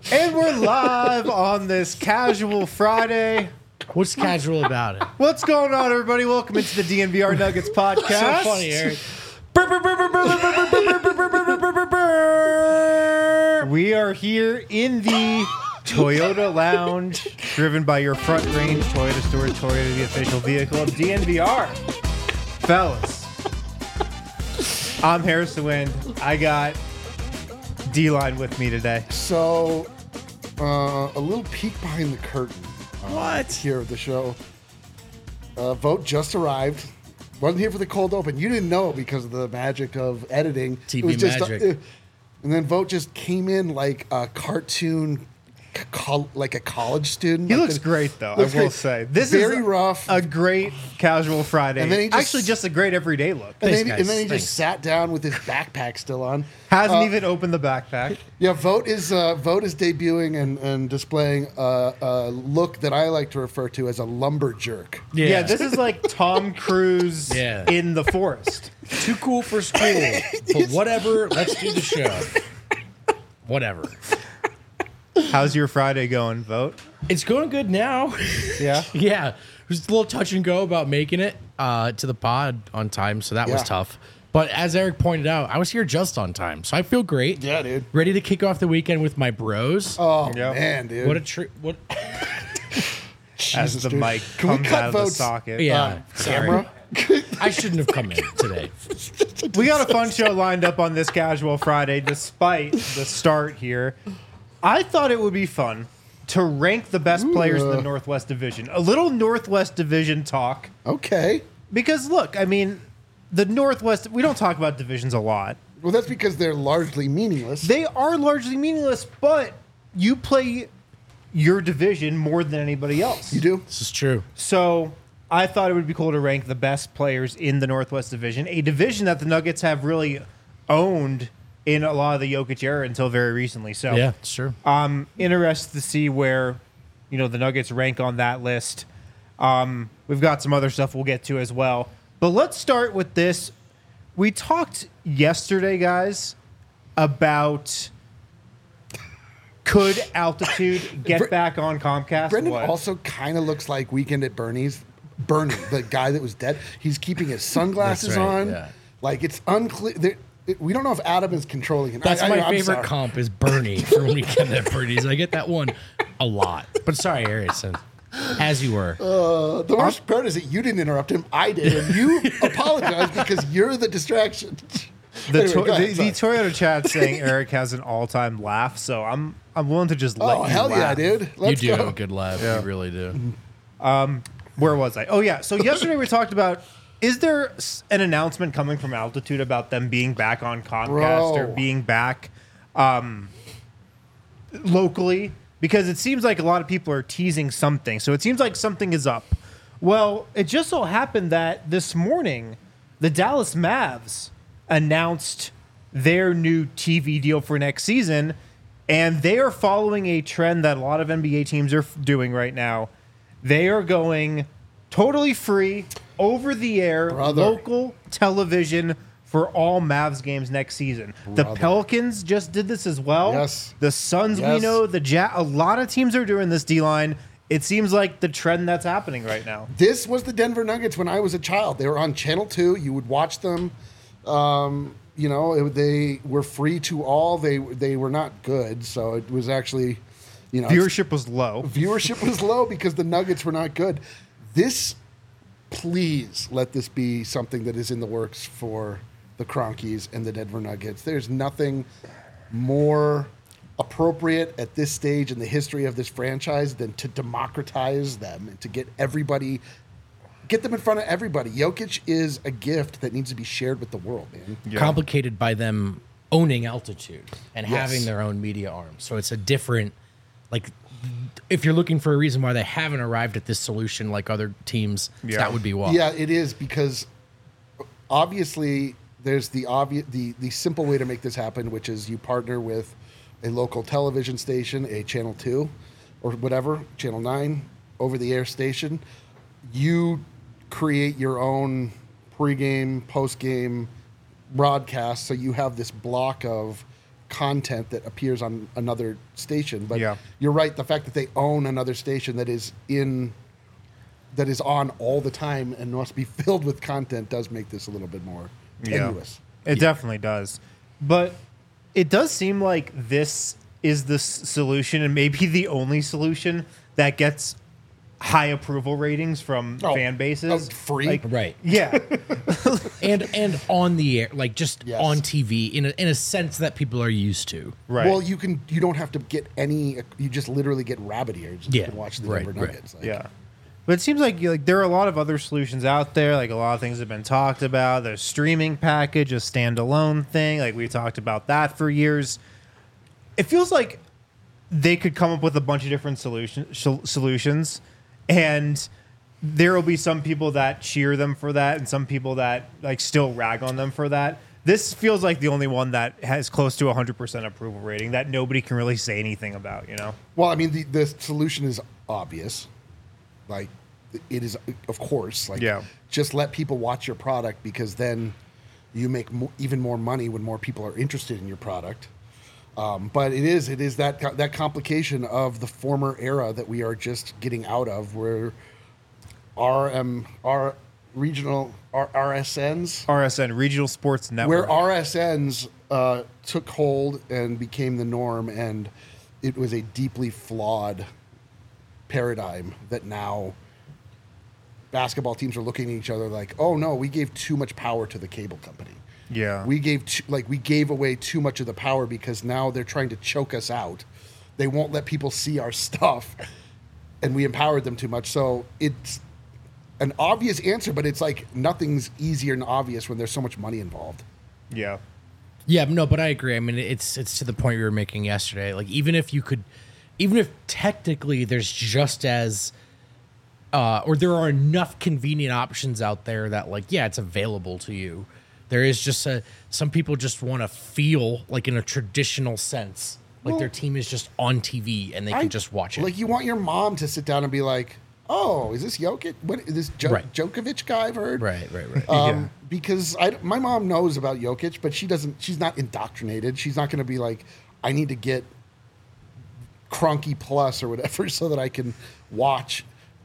And we're live on this casual Friday. What's casual about it? What's going on, everybody? Welcome into the DNVR Nuggets podcast. So funny, Eric. We are here in the Toyota Lounge, driven by your Front Range Toyota store. Toyota, the official vehicle of DNVR. Fellas, I'm Harrison Wind. I got D-Line with me today. So, a little peek behind the curtain. What? Here at the show. Vogt just arrived. Wasn't here for the cold open. You didn't know because of the magic of editing. TV It was just, magic. And then Vogt just came in like a cartoon, like a college student. He Like looks great, though, I looks will great. say. This Very is rough. a great casual Friday. And then he just- Actually, just a great everyday look. And Thanks, then, guys. and then he Thanks. just sat down with his backpack still on. Hasn't even opened the backpack. Yeah, Vogt is debuting and displaying a look that I like to refer to as a lumberjerk. Yeah, this is like Tom Cruise Yeah. in the forest. Too cool for school. But whatever, let's do the show. Whatever. How's your Friday going, Vogt? It's going good now. Yeah? Yeah. It was a little touch and go about making it to the pod on time, so that was Yeah. tough. But as Eric pointed out, I was here just on time, so I feel great. Yeah, dude. Ready to kick off the weekend with my bros. Oh, Yeah. man, dude. What a treat. What? As Jesus, the dude. mic Can we comes cut out of the Vogt's socket. Yeah. Sorry. camera? I shouldn't have come in today. We got a fun show lined up on this casual Friday, despite the start here. I thought it would be fun to rank the best players in the Northwest Division. A little Northwest Division talk. Okay. Because, look, I mean, the Northwest, we don't talk about divisions a lot. Well, that's because they're largely meaningless. They are largely meaningless, but you play your division more than anybody else. You do? This is true. So I thought it would be cool to rank the best players in the Northwest Division, a division that the Nuggets have really owned in a lot of the Jokic era until very recently. So Yeah, it's true. I'm interested to see where, the Nuggets rank on that list. We've got some other stuff we'll get to as well. But let's start with this. We talked yesterday, guys, about could Altitude get back on Comcast? Brendan What? also kind of looks like Weekend at Bernie's. Bernie, the guy that was dead. He's keeping his sunglasses That's right, on. yeah. Like, it's unclear. We don't know if Adam is controlling him. That's my I'm favorite sorry. comp is Bernie from Weekend at Bernie's. I get that one a lot. But sorry, Harrison. As you were. The worst part is that you didn't interrupt him. I did. And you apologized because you're the distraction. The, Anyway, go ahead, the sorry. Toyota chat saying Eric has an all-time laugh, so I'm willing to just let Oh, you hell yeah, laugh. dude. Let's you do go. have a good laugh. You really do. Where was I? Oh yeah. So yesterday we talked about, is there an announcement coming from Altitude about them being back on Comcast or Bro. being back locally? Because it seems like a lot of people are teasing something. So it seems like something is up. Well, it just so happened that this morning, the Dallas Mavs announced their new TV deal for next season, and they are following a trend that a lot of NBA teams are doing right now. They are going totally free, over the air, Brother. local television for all Mavs games next season. The Pelicans just did this as well. Yes. The Suns, we Yes. know. A lot of teams are doing this, D-line. It seems like the trend that's happening right now. This was the Denver Nuggets when I was a child. They were on Channel 2. You would watch them. They were free to all. They were not good, so it was actually, Viewership was low. viewership was low because the Nuggets were not good. Please let this be something that is in the works for the Cronkies and the Denver Nuggets. There's nothing more appropriate at this stage in the history of this franchise than to democratize them and to get them in front of everybody. Jokic is a gift that needs to be shared with the world, man. Complicated by them owning Altitude and Yes. having their own media arm. So it's a different, if you're looking for a reason why they haven't arrived at this solution like other teams, Yeah. that would be why. Yeah, it is because obviously there's the simple way to make this happen, which is you partner with a local television station, a Channel 2 or whatever, Channel 9, over-the-air station. You create your own pregame, postgame broadcast, so you have this block of content that appears on another station. But Yeah. you're right. The fact that they own another station that is on all the time and must be filled with content does make this a little bit more tenuous. It definitely does. But it does seem like this is the solution and maybe the only solution that gets high approval ratings from fan bases. Free? Like, Right. yeah. And on the air, like just Yes. on TV in a sense that people are used to. Right. Well, you don't have to get any. You just literally get rabbit ears. And Yeah, you can watch the right, Denver right. Nuggets. Yeah. But it seems like there are a lot of other solutions out there. Like a lot of things have been talked about. There's streaming package, a standalone thing. Like we talked about that for years. It feels like they could come up with a bunch of different solutions, and there will be some people that cheer them for that, and some people that like still rag on them for that. This feels like the only one that has close to 100% approval rating that nobody can really say anything about. Well, I mean, the solution is obvious. Like, it is, of course. Like, Yeah. just let people watch your product because then you make even more money when more people are interested in your product. But it is that complication of the former era that we are just getting out of, where our regional RSN, Regional Sports Network. where RSNs took hold and became the norm, and it was a deeply flawed paradigm that now basketball teams are looking at each other like, oh no, we gave too much power to the cable company. Yeah. We gave away too much of the power because now they're trying to choke us out. They won't let people see our stuff, and we empowered them too much. So it's an obvious answer, but it's like nothing's easier and obvious when there's so much money involved. Yeah. Yeah, no, but I agree. I mean, it's to the point we were making yesterday. Like, even if technically there's just as, or there are enough convenient options out there that, like, yeah, it's available to you. There is just some people just want to feel like in a traditional sense, like their team is just on TV and they can just watch it. Like, you want your mom to sit down and be like, oh, is this Jokic? What is this Right. Djokovic guy I've heard? Right. Yeah. Because my mom knows about Jokic, but she's not indoctrinated. She's not going to be like, I need to get Cronky Plus or whatever so that I can watch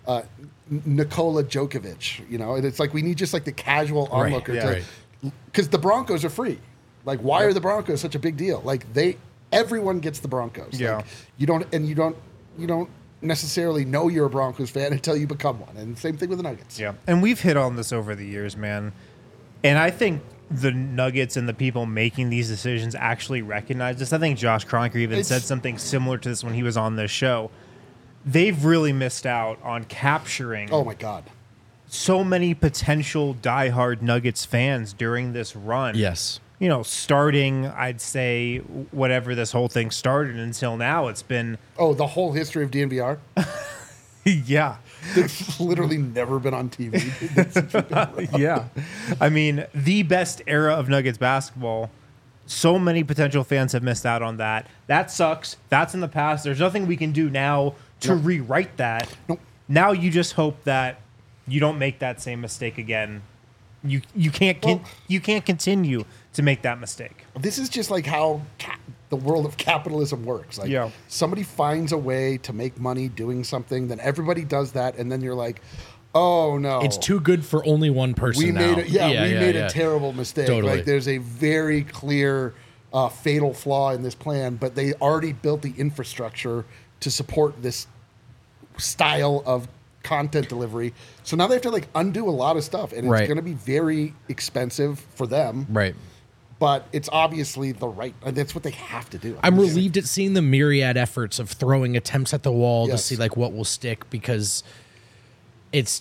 Nikola Djokovic, and it's like we need just like the casual onlooker yeah. to, because the Broncos are free. Like, why are the Broncos such a big deal? Like, everyone gets the Broncos. Yeah. Like, you don't necessarily know you're a Broncos fan until you become one. And same thing with the Nuggets. Yeah. And we've hit on this over the years, man. And I think the Nuggets and the people making these decisions actually recognize this. I think Josh Kroenke even said something similar to this when he was on this show. They've really missed out on capturing Oh my God. so many potential diehard Nuggets fans during this run. Yes. Starting, I'd say, whatever this whole thing started until now, it's been, Oh, the whole history of DNVR? yeah. It's literally never been on TV. Yeah. I mean, the best era of Nuggets basketball. So many potential fans have missed out on that. That sucks. That's in the past. There's nothing we can do now to rewrite that. Nope. Now you just hope that you don't make that same mistake again. You can't continue to make that mistake. This is just like how the world of capitalism works. Like, Yeah. somebody finds a way to make money doing something, then everybody does that, and then you're like, oh no, It's too good for only one person we now. made a terrible mistake. Totally. Like, there's a very clear fatal flaw in this plan, but they already built the infrastructure to support this style of content delivery. So now they have to like undo a lot of stuff, and it's Right. going to be very expensive for them. Right. But it's obviously that's what they have to do. I'm relieved at seeing the myriad efforts of throwing attempts at the wall to Yes. see like what will stick, because it's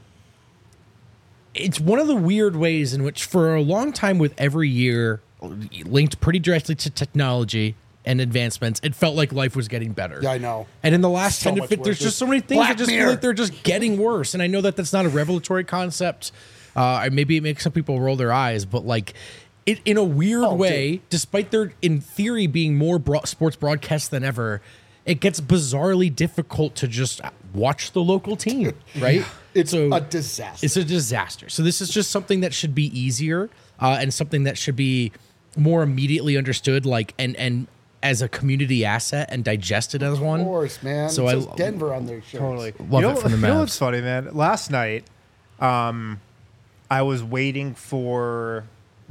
one of the weird ways in which for a long time with every year linked pretty directly to technology and advancements, it felt like life was getting better. Yeah, I know. And in the last So 10 to much 15, there's worse. just so many things Black that just feel Mirror. like they're just getting worse. And I know that that's not a revelatory concept. Maybe it makes some people roll their eyes, but like it in a weird way, dude. despite there in theory being more sports broadcasts than ever, it gets bizarrely difficult to just watch the local team, right? It's a disaster. It's a disaster. So this is just something that should be easier and something that should be more immediately understood, like and as a community asset and digested as one. Of course, man. So It says Denver on their shirts. Totally. Love it from the You know Mavs. what's funny, man? Last night, I was waiting for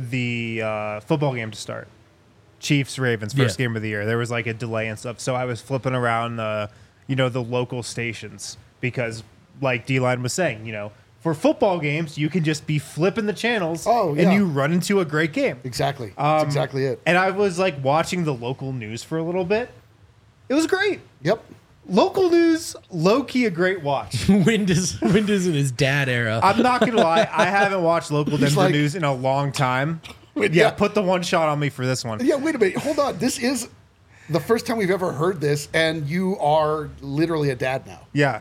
the football game to start. Chiefs Ravens first Yeah. game of the year. There was like a delay and stuff, so I was flipping around the local stations because, like D-Line was saying, for football games you can just be flipping the channels, Oh, yeah. and you run into a great game. Exactly. That's exactly it. And I was like watching the local news for a little bit. It was great. Yep. Local news, low key a great watch. Wind is in his dad era. I'm not gonna lie, I haven't watched local Denver like- news in a long time. Wait, Yeah, yeah. put the one shot on me for this one. Yeah, wait a minute. Hold on. This is the first time we've ever heard this, and you are literally a dad now. Yeah.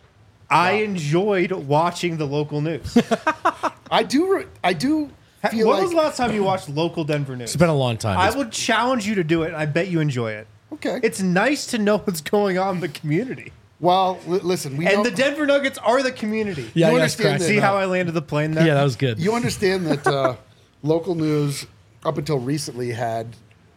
I enjoyed watching the local news. I do feel When like was the last time you watched local Denver news? It's been a long time. I would challenge you to do it, and I bet you enjoy it. okay. It's nice to know what's going on in the community. Well, listen, we And know, the Denver Nuggets are the community. yeah, you I understand understand that- See how I landed the plane there? Yeah, that was good. you understand that local news up until recently had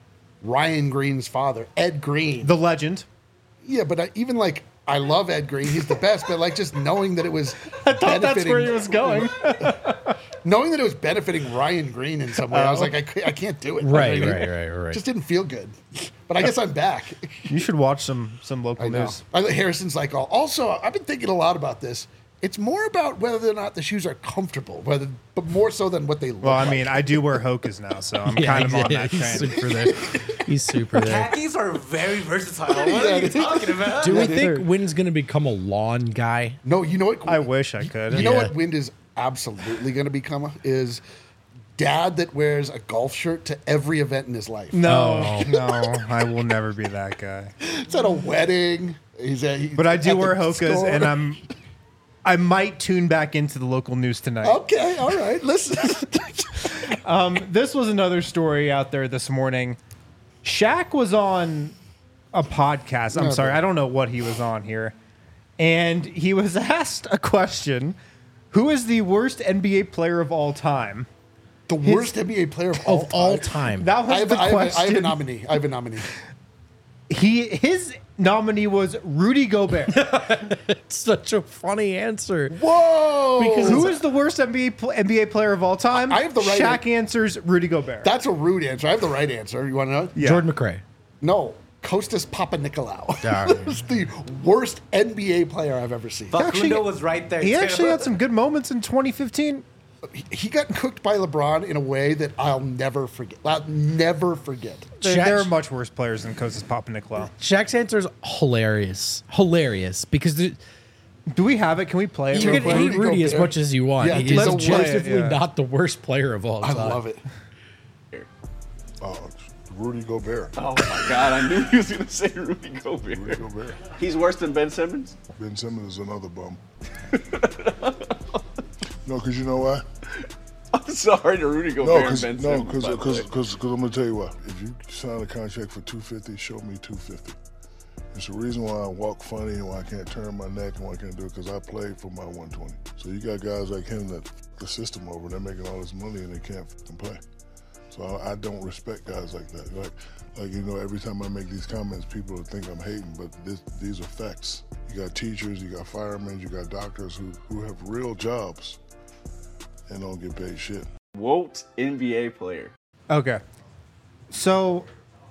Ryan Green's father, Ed Green. The legend. Yeah, but even like I love Ed Green, he's the best. But like just knowing that it was I thought that's where he was going. knowing that it was benefiting Ryan Green in some way, I was like, I can't do it. Right. Just didn't feel good. But I guess I'm back. You should watch some local I know. news. Harrison's like, also, I've been thinking a lot about this. It's more about whether or not the shoes are comfortable, but more so than what they look Well, I like. mean, I do wear Hokas now, so I'm Yeah, kind of on that he's train. super there. He's super there. Khakis are very versatile. What are you talking about? Do we Yeah, think Wynn's going to become a lawn guy? No, you know what? I wish I could. You know Yeah. what Wind is absolutely going to become is dad that wears a golf shirt to every event in his life. No, no, I will never be that guy. It's at a wedding. But I do at the wear Hokas, store. and I might tune back into the local news tonight. Okay, all right. Listen. This was another story out there this morning. Shaq was on a podcast. I'm No, sorry, but- I don't know what he was on here. And he was asked a question: who is the worst NBA player of all time? The worst NBA player of all time. time. That was the question. I have a nominee. I have a nominee. His nominee was Rudy Gobert. Such a funny answer. Whoa! Because Who is the worst NBA player of all time? I have the right Shaq answers Rudy Gobert. That's a rude answer. I have the right answer. You want to know? Yeah. Jordan McRae. No. Kostas Papanikolaou. Darn. That's the worst NBA player I've ever seen. Facundo was right there. He too. actually had some good moments in 2015. He got cooked by LeBron in a way that I'll never forget. I'll never forget. There are much worse players than Kostas Papanikolaou. Shaq's answer is hilarious. Hilarious. Because Do we have it? Can we play it? you real can quick? hate Rudy as Gobert. much as you want. Yeah, He's let's play it, objectively yeah. not the worst player of all I time. love it. Rudy Gobert. Oh my God! I knew he was gonna say Rudy Gobert. Rudy Gobert. He's worse than Ben Simmons. Ben Simmons is another bum. No, because you know why? I'm sorry to Rudy No, Gobert because and Ben Simmons. by the way. I'm gonna tell you why. If you sign a contract for $250, show me $250. It's the reason why I walk funny and why I can't turn my neck and why I can't do it because I played for my 120. So you got guys like him that the system over, they're making all this money and they can't play. So I don't respect guys like that. Like you know, every time I make these comments, people will think I'm hating, but these are facts. You got teachers, you got firemen, you got doctors who have real jobs and don't get paid shit. Wolt NBA player. Okay. So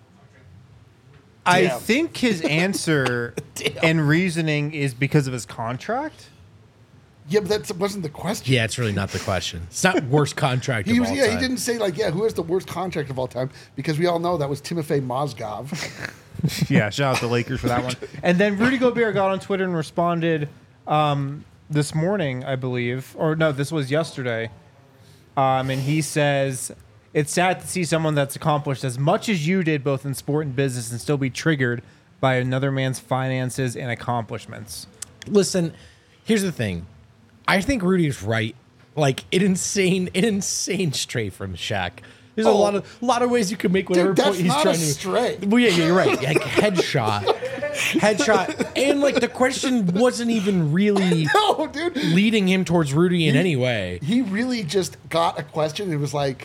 I Damn. think his answer and reasoning is because of his contract. Yeah, but that wasn't the question. Yeah, it's really not the question. It's not worst contract He of was. all Yeah, time. he didn't say like, who has the worst contract of all time? Because we all know that was Timofey Mozgov. Yeah, shout out the Lakers for that one. And then Rudy Gobert got on Twitter and responded this morning, I believe, or no, this was yesterday. And he says, "It's sad to see someone that's accomplished as much as you did, both in sport and business, and still be triggered by another man's finances and accomplishments." Listen, here's the thing. I think Rudy's right. Like an insane stray from Shaq. There's a lot of ways you can make whatever Dude, point that's he's not trying a to. stray. Well, yeah, you're right. Like headshot, and like the question wasn't even really No, dude. leading him towards Rudy in any way. He really just got a question. It was like,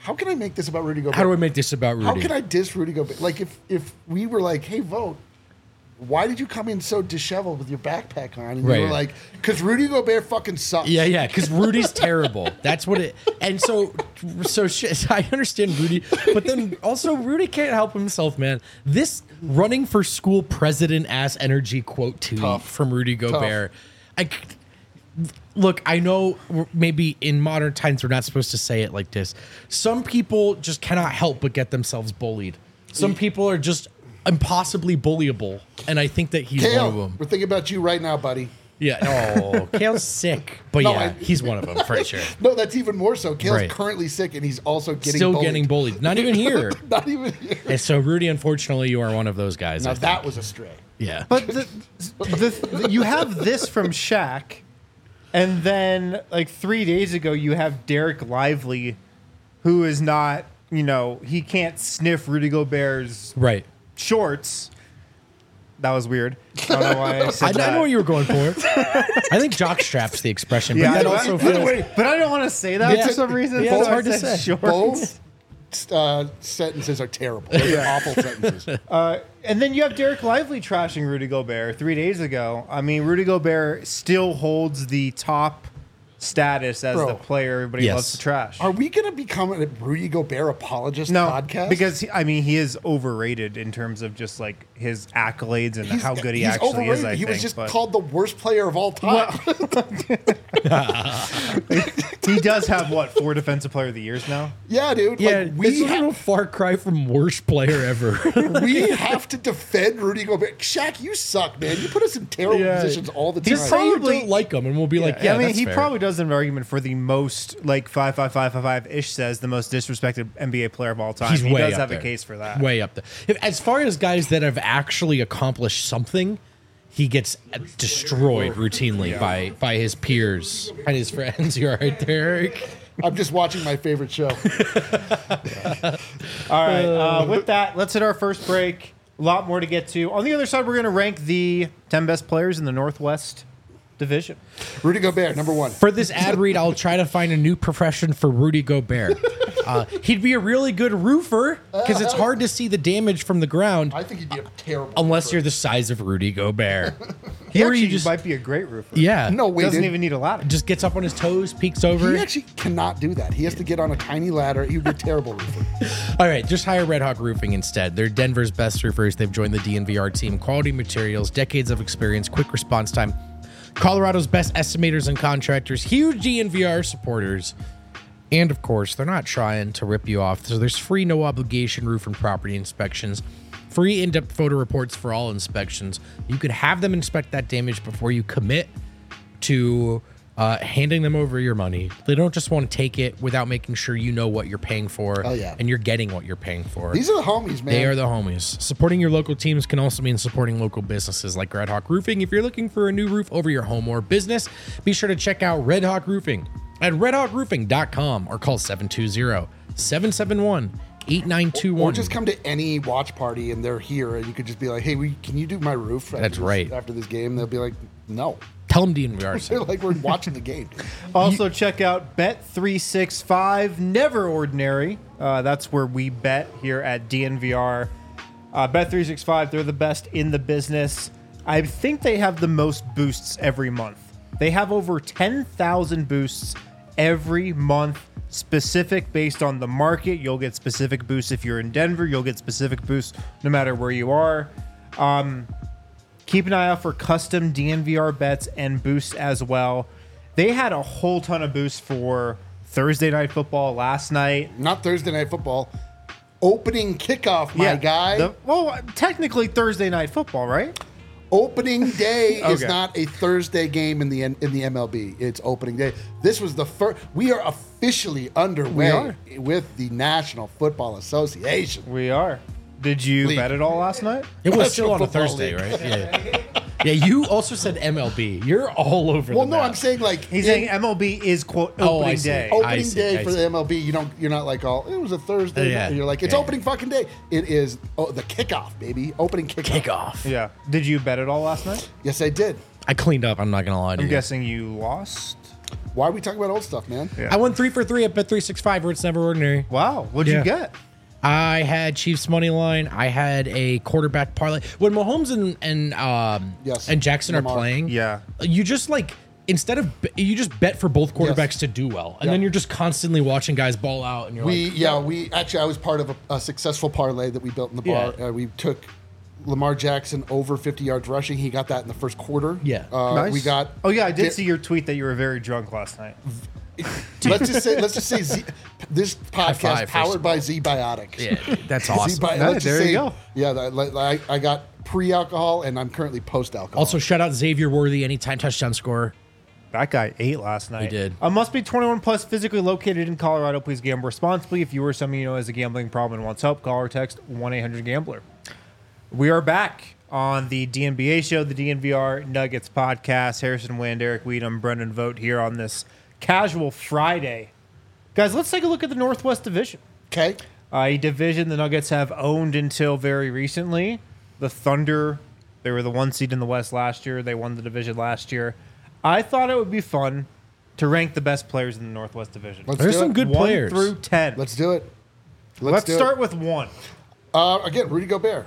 how can I make this about Rudy Gobert? How do I make this about Rudy? How can I diss Rudy Gobert? Like if we were like, hey, Vogt, why did you come in so disheveled with your backpack on? And Right. you were like, because Rudy Gobert fucking sucks. Yeah, because Rudy's terrible. That's what it. And so I understand Rudy, but then also Rudy can't help himself, man. This running for school president ass energy quote tweet Tough. from Rudy Gobert. Look, I know maybe in modern times we're not supposed to say it like this. Some people just cannot help but get themselves bullied. Some people are just impossibly bullyable, and I think that he's one of Kale, them. we're thinking about you right now, buddy. Yeah. Oh, Kale's sick, but No, yeah, I- he's one of them for sure. No, that's even more so. Kale's Right. currently sick, and he's also getting Still bullied. getting bullied. Not even here. Not even here. And so, Rudy, unfortunately, you are one of those guys. Now I that think. was a stray. Yeah. But you have this from Shaq, and then like 3 days ago you have Derek Lively, who is not, he can't sniff Rudy Gobert's Right. shorts. That was weird. I don't know why I said that. I know what you were going for. I think jockstrap's the expression, but Yeah, that I- also by the feels. way, but I don't want to say that Yeah. for some reason. Yeah, it's so hard I to said say. shorts. Both sentences are terrible. They're awful sentences. And then you have Derek Lively trashing Rudy Gobert 3 days ago. I mean, Rudy Gobert still holds the top status as Bro. the player everybody Yes. loves to trash. Are we going to become a Rudy Gobert apologist No, podcast? because he is overrated in terms of just like his accolades and how good he he's actually overrated. is. I he think was just but called the worst player of all time. he does have 4 defensive player of the years now. Yeah, dude. Yeah, Like, it's we a little far cry from worst player ever. we have to defend Rudy Gobert. Shaq, you suck, man. You put us in terrible Yeah. positions all the He's time. probably Probably- don't like him, and we'll be like, yeah, I mean, that's he fair. probably does have an argument for the most 5 ish says the most disrespected NBA player of all time. He's he way does up have there. a case for that. Way up there. As far as guys that have actually accomplished something, he gets destroyed routinely by his peers and his friends. You're right there, Eric. I'm just watching my favorite show. All right. With that, let's hit our first break. A lot more to get to. On the other side, we're going to rank the 10 best players in the Northwest Division. Rudy Gobert, number one. For this ad read, I'll try to find a new profession for Rudy Gobert. He'd be a really good roofer because it's hard to see the damage from the ground I think he'd be a terrible. unless roofer. you're the size of Rudy Gobert. He Or actually you just- might be a great roofer. Yeah. No way, Doesn't dude. even need a ladder. Just gets up on his toes, peeks over. He actually cannot do that. He has to get on a tiny ladder. He would be a terrible roofer. All right, just hire Red Hawk Roofing instead. They're Denver's best roofers. They've joined the DNVR team. Quality materials, decades of experience, quick response time. Colorado's best estimators and contractors, huge DNVR supporters. And of course, they're not trying to rip you off. So there's free no obligation roof and property inspections, free in-depth photo reports for all inspections. You could have them inspect that damage before you commit to handing them over your money. They don't just want to take it without making sure you know what you're paying for Oh, yeah. and you're getting what you're paying for. These are the homies, man. They are the homies. Supporting your local teams can also mean supporting local businesses like Red Hawk Roofing. If you're looking for a new roof over your home or business, be sure to check out Red Hawk Roofing at redhawkroofing.com or call 720-771-8921. Or just come to any watch party and they're here, and you could just be like, "Hey, can you do my roof?" That's right. After this game, they'll be like, "No." Tell them DNVR They're sent. like, "We're watching the game." Also, check out Bet365, Never Ordinary. That's where we bet here at DNVR. Bet365, they're the best in the business. I think they have the most boosts every month. They have over 10,000 boosts every month, specific based on the market. You'll get specific boosts if you're in Denver. You'll get specific boosts no matter where you are. Keep an eye out for custom DNVR bets and boosts as well. They had a whole ton of boosts for Thursday Night Football last night. Not Thursday Night Football. Opening kickoff, my guy. Technically Thursday Night Football, right? Opening day is Okay. not a Thursday game in the MLB. It's opening day. This was the first. We are officially underway with the National Football Association. We are. Did you League. bet it all last night? It was still on a Football Thursday, league. right? Yeah. Yeah, you also said MLB. You're all over Well, the no, map. I'm saying like He's saying MLB is quote Oh, I opening see. day. I opening see, day I for see. the MLB. You're not like all. It was a Thursday. Yeah. night. You're like it's Yeah. opening fucking day. It is the kickoff, baby. Opening kickoff. Kickoff. Yeah. Did you bet it all last night? Yes, I did. I cleaned up. I'm not going to lie to I'm you. guessing you lost. Why are we talking about old stuff, man? I won 3 for 3 at Bet365 where it's never ordinary. Wow. What'd Yeah. you get? I had Chiefs money line. I had a quarterback parlay. When Mahomes Yes. and Jackson Lamar. are playing, Yeah. you just like you just bet for both quarterbacks to do well, and Yeah. then you're just constantly watching guys ball out, and you're like, I was part of a successful parlay that we built in the bar. Yeah. We took Lamar Jackson over 50 yards rushing. He got that in the first quarter. Yeah. Nice. We got. Oh yeah, I did see your tweet that you were very drunk last night. Let's just say this podcast five, first powered of by Z Biotics. yeah, that's awesome. Let's just there you say, go. Yeah, I got pre-alcohol and I'm currently post-alcohol. Also, shout out Xavier Worthy, anytime touchdown scorer. That guy ate last night. He did. Must be 21 plus, physically located in Colorado. Please gamble responsibly. If you or someone you know has a gambling problem and wants help, call or text 1-800-GAMBLER. We are back on the DNBA show, the DNVR Nuggets podcast. Harrison Wind, Eric Weedham, Brendan Vogt here on this casual Friday. Guys, let's take a look at the Northwest Division. okay. A division the Nuggets have owned until very recently. The Thunder, they were the 1 seed in the West last year. They won the division last year. I thought it would be fun to rank the best players in the Northwest Division. Let's There's do some it. good 1 players. through 10. Let's do it. Let's do it. start with 1. Again, Rudy Gobert.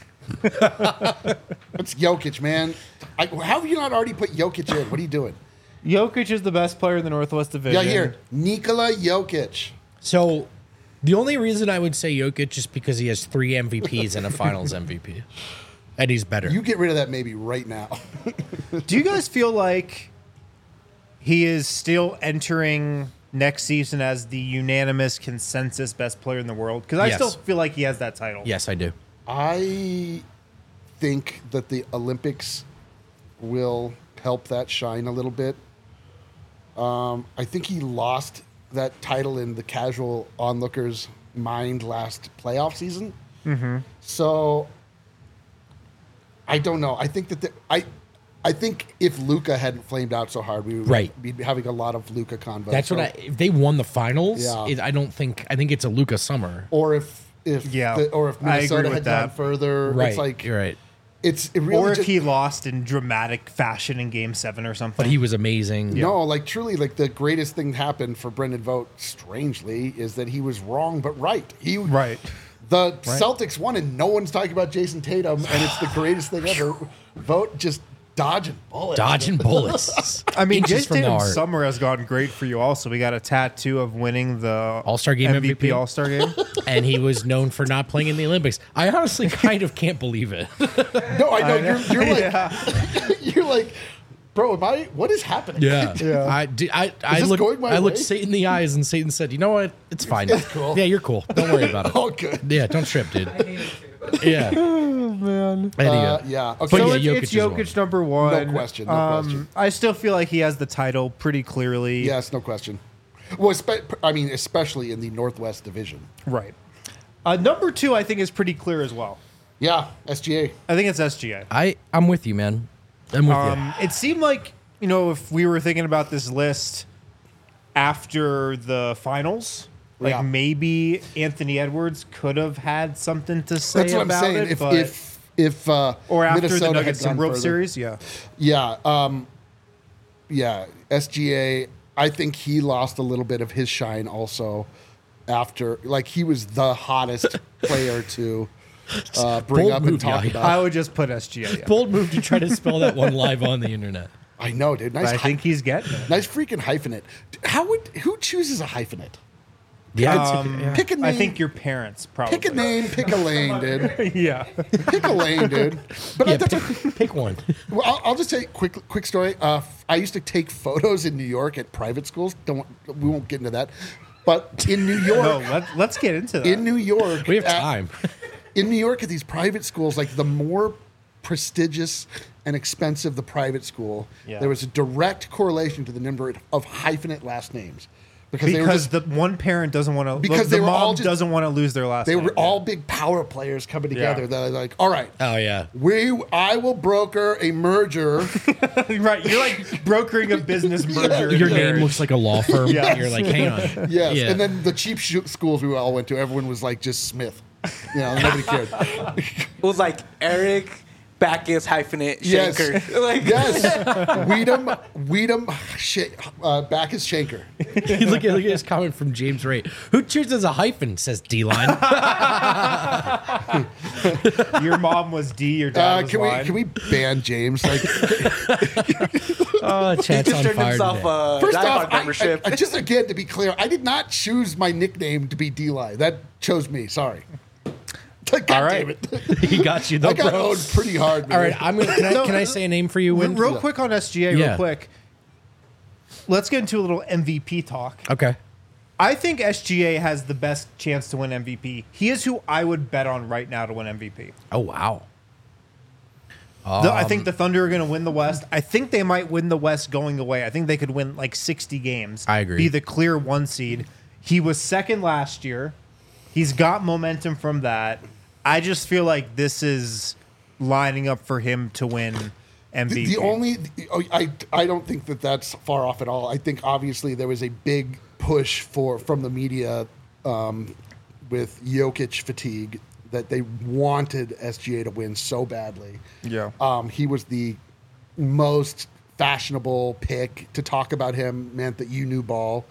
It's Jokic, man. How have you not already put Jokic in? What are you doing? Jokic is the best player in the Northwest Division. Yeah, here. Nikola Jokic. So, the only reason I would say Jokic is because he has 3 MVPs and a Finals MVP, and he's better. You get rid of that maybe right now. Do you guys feel like he is still entering next season as the unanimous consensus best player in the world? Because I Yes. still feel like he has that title. Yes, I do. I think that the Olympics will help that shine a little bit. I think he lost that title in the casual onlooker's mind last playoff season. Mm-hmm. So I don't know. I think that I think if Luka hadn't flamed out so hard, we would Right. be having a lot of Luka convos. That's So- what if they won the finals, Yeah. I think it's a Luka summer. Or if Yeah, or if I agree Minnesota with had that. gone further, Right. it's like You're right. it really Or if just, he lost in dramatic fashion in Game 7 or something. But he was amazing. No, like truly, like the greatest thing happened for Brendan Vogt, strangely, is that he was wrong but right. Right. The Celtics won, and no one's talking about Jason Tatum, and it's the greatest thing ever. Vogt just dodging bullets. Dodging bullets. I mean, Inches Jason from the Tatum's heart. summer has gone great for you also. We got a tattoo of winning the All-Star Game MVP. All-Star Game. And he was known for not playing in the Olympics. I honestly kind of can't believe it. No, I know. You're like, you're like, bro, what is happening? Yeah. I this looked going my I looked way? Satan in the eyes, and Satan said, "You know what? It's fine. It's cool. Yeah, you're cool. Don't worry about it. Oh, good. Yeah, don't trip, dude. Yeah. Man. Yeah. Okay. But So yeah, it's Jokic is Jokic number 1. No question, no question. I still feel like he has the title pretty clearly. Yes, no question. Well, especially in the Northwest Division. Right. Number 2, I think, is pretty clear as well. Yeah, SGA. I think it's SGA. I'm with you, man. I'm with you. It seemed like, if we were thinking about this list after the finals, like Yeah. maybe Anthony Edwards could have had something to say That's what I'm about saying. it. If or after Minnesota the had Nuggets gone World further. Series, yeah. Yeah, SGA. I think he lost a little bit of his shine also after, like, he was the hottest player to bring Bold up move, and talk yeah. about. I would just put SGA. Yeah. Bold move to try to spell that one live on the internet. I know, dude. But Nice. I think he's getting it. nice freaking hyphenate. Who chooses a hyphenate? Yeah. Pick a name. I think your parents probably. Pick a name. Pick a lane, dude. Yeah. Pick a lane, dude. But Yeah, that's pick one. well, I'll just tell you a quick story. I used to take photos in New York at private schools. We won't get into that. But in New York, No, let's get into that. in New York, We have time. in New York at these private schools, like the more prestigious and expensive the private school, Yeah. there was a direct correlation to the number of hyphenate last names. Because they were because just, the one parent doesn't want to. Because the they were mom all just- doesn't want to lose their last. they name. were all big power players coming together. Yeah. They're like, all right, Oh yeah. I will broker a merger. right. You're like brokering a business merger. Your in name marriage. looks like a law firm. Yes. You're like, hang on. Yes. Yeah. And then the cheap schools we all went to, everyone was like just Smith. Nobody cared. It was like Eric, Bacchus hyphenate Yes. Shanker. Like, yes. Weedham, Bacchus Shanker. look at this comment from James Ray. Who chooses a hyphen? Says D-line. Your mom was D, your dad was line. Can we ban James? Like, Oh, he chat's just on turned fire himself today. a first Die off, Hard membership. I just again to be clear, I did not choose my nickname to be D-Line. That chose me. Sorry. God All right. damn it. He got you though, I got bro. owned pretty hard, man. All right, I'm gonna. Can I say a name for you? Win? Real quick on SGA, Yeah. real quick. Let's get into a little MVP talk. Okay. I think SGA has the best chance to win MVP. He is who I would bet on right now to win MVP. Oh wow. I think the Thunder are going to win the West. I think they might win the West going away. I think they could win like 60 games. I agree. Be the clear 1 seed. He was second last year. He's got momentum from that. I just feel like this is lining up for him to win MVP. The only, I don't think that that's far off at all. I think obviously there was a big push from the media with Jokic fatigue that they wanted SGA to win so badly. Yeah. He was the most fashionable pick. To talk about him meant that you knew ball.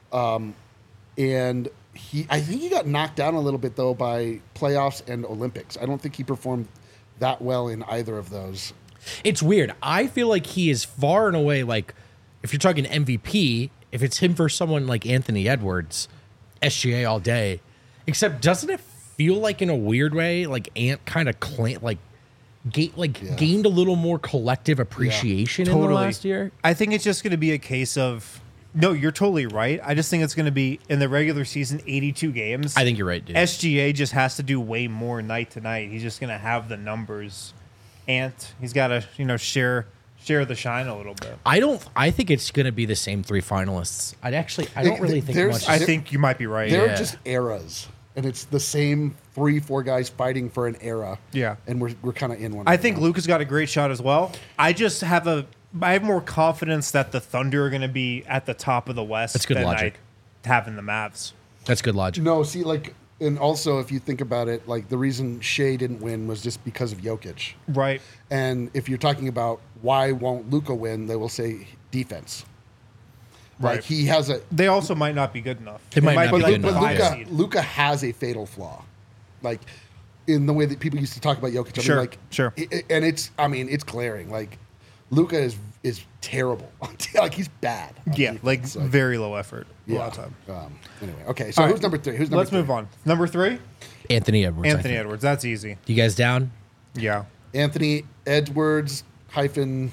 And I think he got knocked down a little bit though by playoffs and Olympics. I don't think he performed that well in either of those. It's weird. I feel like he is far and away, like, if you're talking MVP, if it's him versus someone like Anthony Edwards, SGA all day. Except, doesn't it feel like, in a weird way, like Ant kind of gained a little more collective appreciation in the last year? I think it's just going to be a case of, no, you're totally right. I just think it's going to be, in the regular season, 82 games. I think you're right, dude. SGA just has to do way more night to night. He's just going to have the numbers. Ant, he's got to, share the shine a little bit. I think it's going to be the same 3 finalists. I don't really think There's- much. I think you might be right. They're Yeah. just eras, and it's the same 3-4 guys fighting for an era. Yeah. and we're kind of in one. I right think now. Luka's got a great shot as well. I have more confidence that the Thunder are going to be at the top of the West That's good than logic. I have in the Mavs. That's good logic. No, see, like, and also if you think about it, like the reason Shea didn't win was just because of Jokic. Right. And if you're talking about why won't Luka win, they will say defense. Like Right. he has a, They also might not be good enough. They might not be like good the enough, five yeah. seed. Luka has a fatal flaw, like in the way that people used to talk about Jokic. I Sure, mean, like, sure. And it's glaring. Like Luka is terrible. Like he's bad. on Yeah, defense. like very low effort a lot of time. Anyway, okay. So All who's right. number 3? Who's number Let's 3? move on. Number 3, Anthony Edwards. I Anthony think. Edwards. That's easy. You guys down? Yeah. Anthony Edwards hyphen.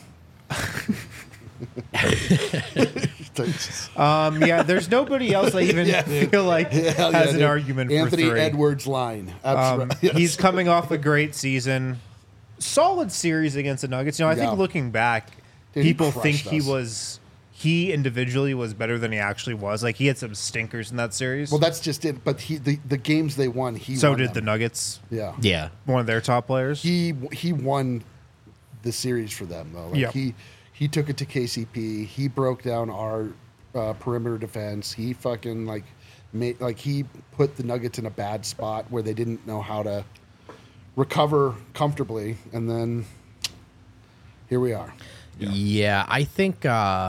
Yeah, there's nobody else I even feel like Hell has yeah, an dude. argument Anthony for 3. Edwards line. Absolutely. Yes. He's coming off a great season. Solid series against the Nuggets. I Yeah. think looking back, Dude, he people think crushed he individually was better than he actually was. Like he had some stinkers in that series. Well, that's just it. But the games they won, he so won did them. the Nuggets, Yeah. one of their top players. He won the series for them though. Like Yeah. he took it to KCP. He broke down our perimeter defense. He fucking he put the Nuggets in a bad spot where they didn't know how to recover comfortably, and then here we are. Yeah, I think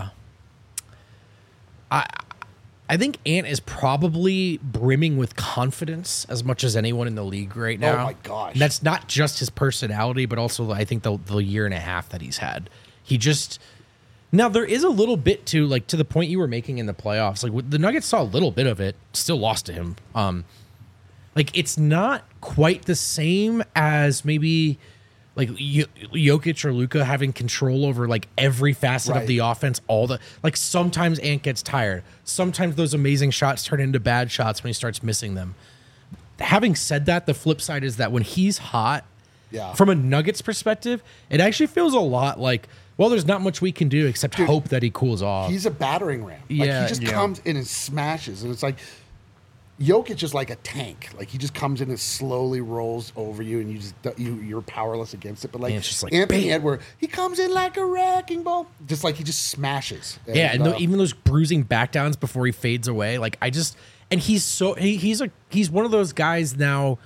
I think Ant is probably brimming with confidence as much as anyone in the league right now. Oh my gosh. And that's not just his personality, but also I think the year and a half that he's had. He just now there is a little bit to like to the point you were making in the playoffs. Like the Nuggets saw a little bit of it, still lost to him. Like it's not quite the same as maybe like Jokic or Luka having control over like every facet of Right. the offense. Like sometimes Ant gets tired. Sometimes those amazing shots turn into bad shots when he starts missing them. Having said that, the flip side is that when he's hot, Yeah. from a Nuggets perspective, it actually feels a lot like, well, there's not much we can do except hope that he cools off. He's a battering ram. Like Yeah. he just Yeah. comes in and smashes, and it's like Jokic is like a tank. Like he just comes in and slowly rolls over you, and you're powerless against it. But like, And it's just like, Anthony bam. Edwards, he comes in like a wrecking ball, just like he just smashes. Yeah, and even those bruising backdowns before he fades away, like he's one of those guys now.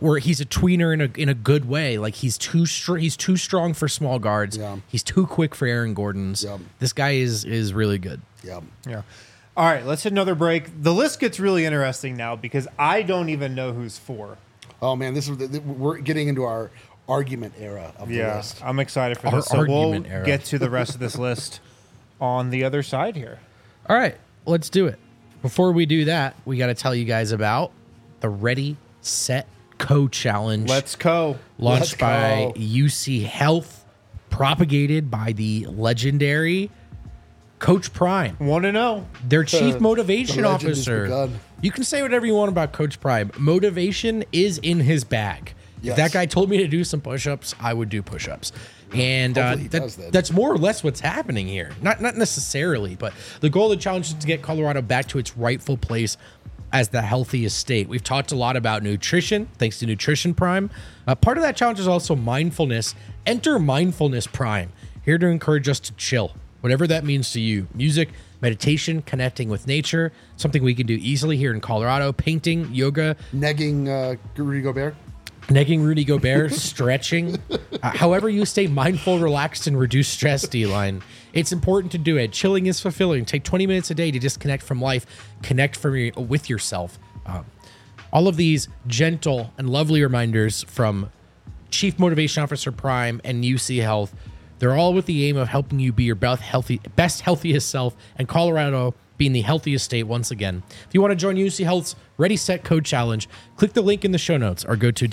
where he's a tweener in a good way. Like he's too strong for small guards. Yeah. He's too quick for Aaron Gordons. Yeah. This guy is really good. Yeah. Yeah. All right, let's hit another break. The list gets really interesting now because I don't even know who's for. Oh man, we're getting into our argument era of the list. I'm excited for Our this. So we'll argument era. get to the rest of this list on the other side here. All right, let's do it. Before we do that, we got to tell you guys about the Ready, Set, Co challenge. Let's go. Launched by go. UC Health, propagated by the legendary Coach Prime, 1-0. their chief motivation the legend has officer. begun. You can say whatever you want about Coach Prime. Motivation is in his bag. Yes. If that guy told me to do some push-ups, I would do push-ups. And Hopefully he does that. that's more or less what's happening here. Not necessarily, but the goal of the challenge is to get Colorado back to its rightful place as the healthiest state. We've talked a lot about nutrition, thanks to Nutrition Prime. Part of that challenge is also mindfulness. Enter Mindfulness Prime, here to encourage us to chill, whatever that means to you. Music, meditation, connecting with nature, something we can do easily here in Colorado. Painting, yoga, Negging Rudy Gobert. negging Rudy Gobert, stretching. However you stay mindful, relaxed, and reduce stress, D-line. It's important to do it. Chilling is fulfilling. Take 20 minutes a day to disconnect from life. Connect with yourself. All of these gentle and lovely reminders from Chief Motivation Officer Prime and UC Health. They're all with the aim of helping you be your best, healthiest self, and Colorado being the healthiest state once again. If you want to join UC Health's Ready, Set, Co challenge, click the link in the show notes or go to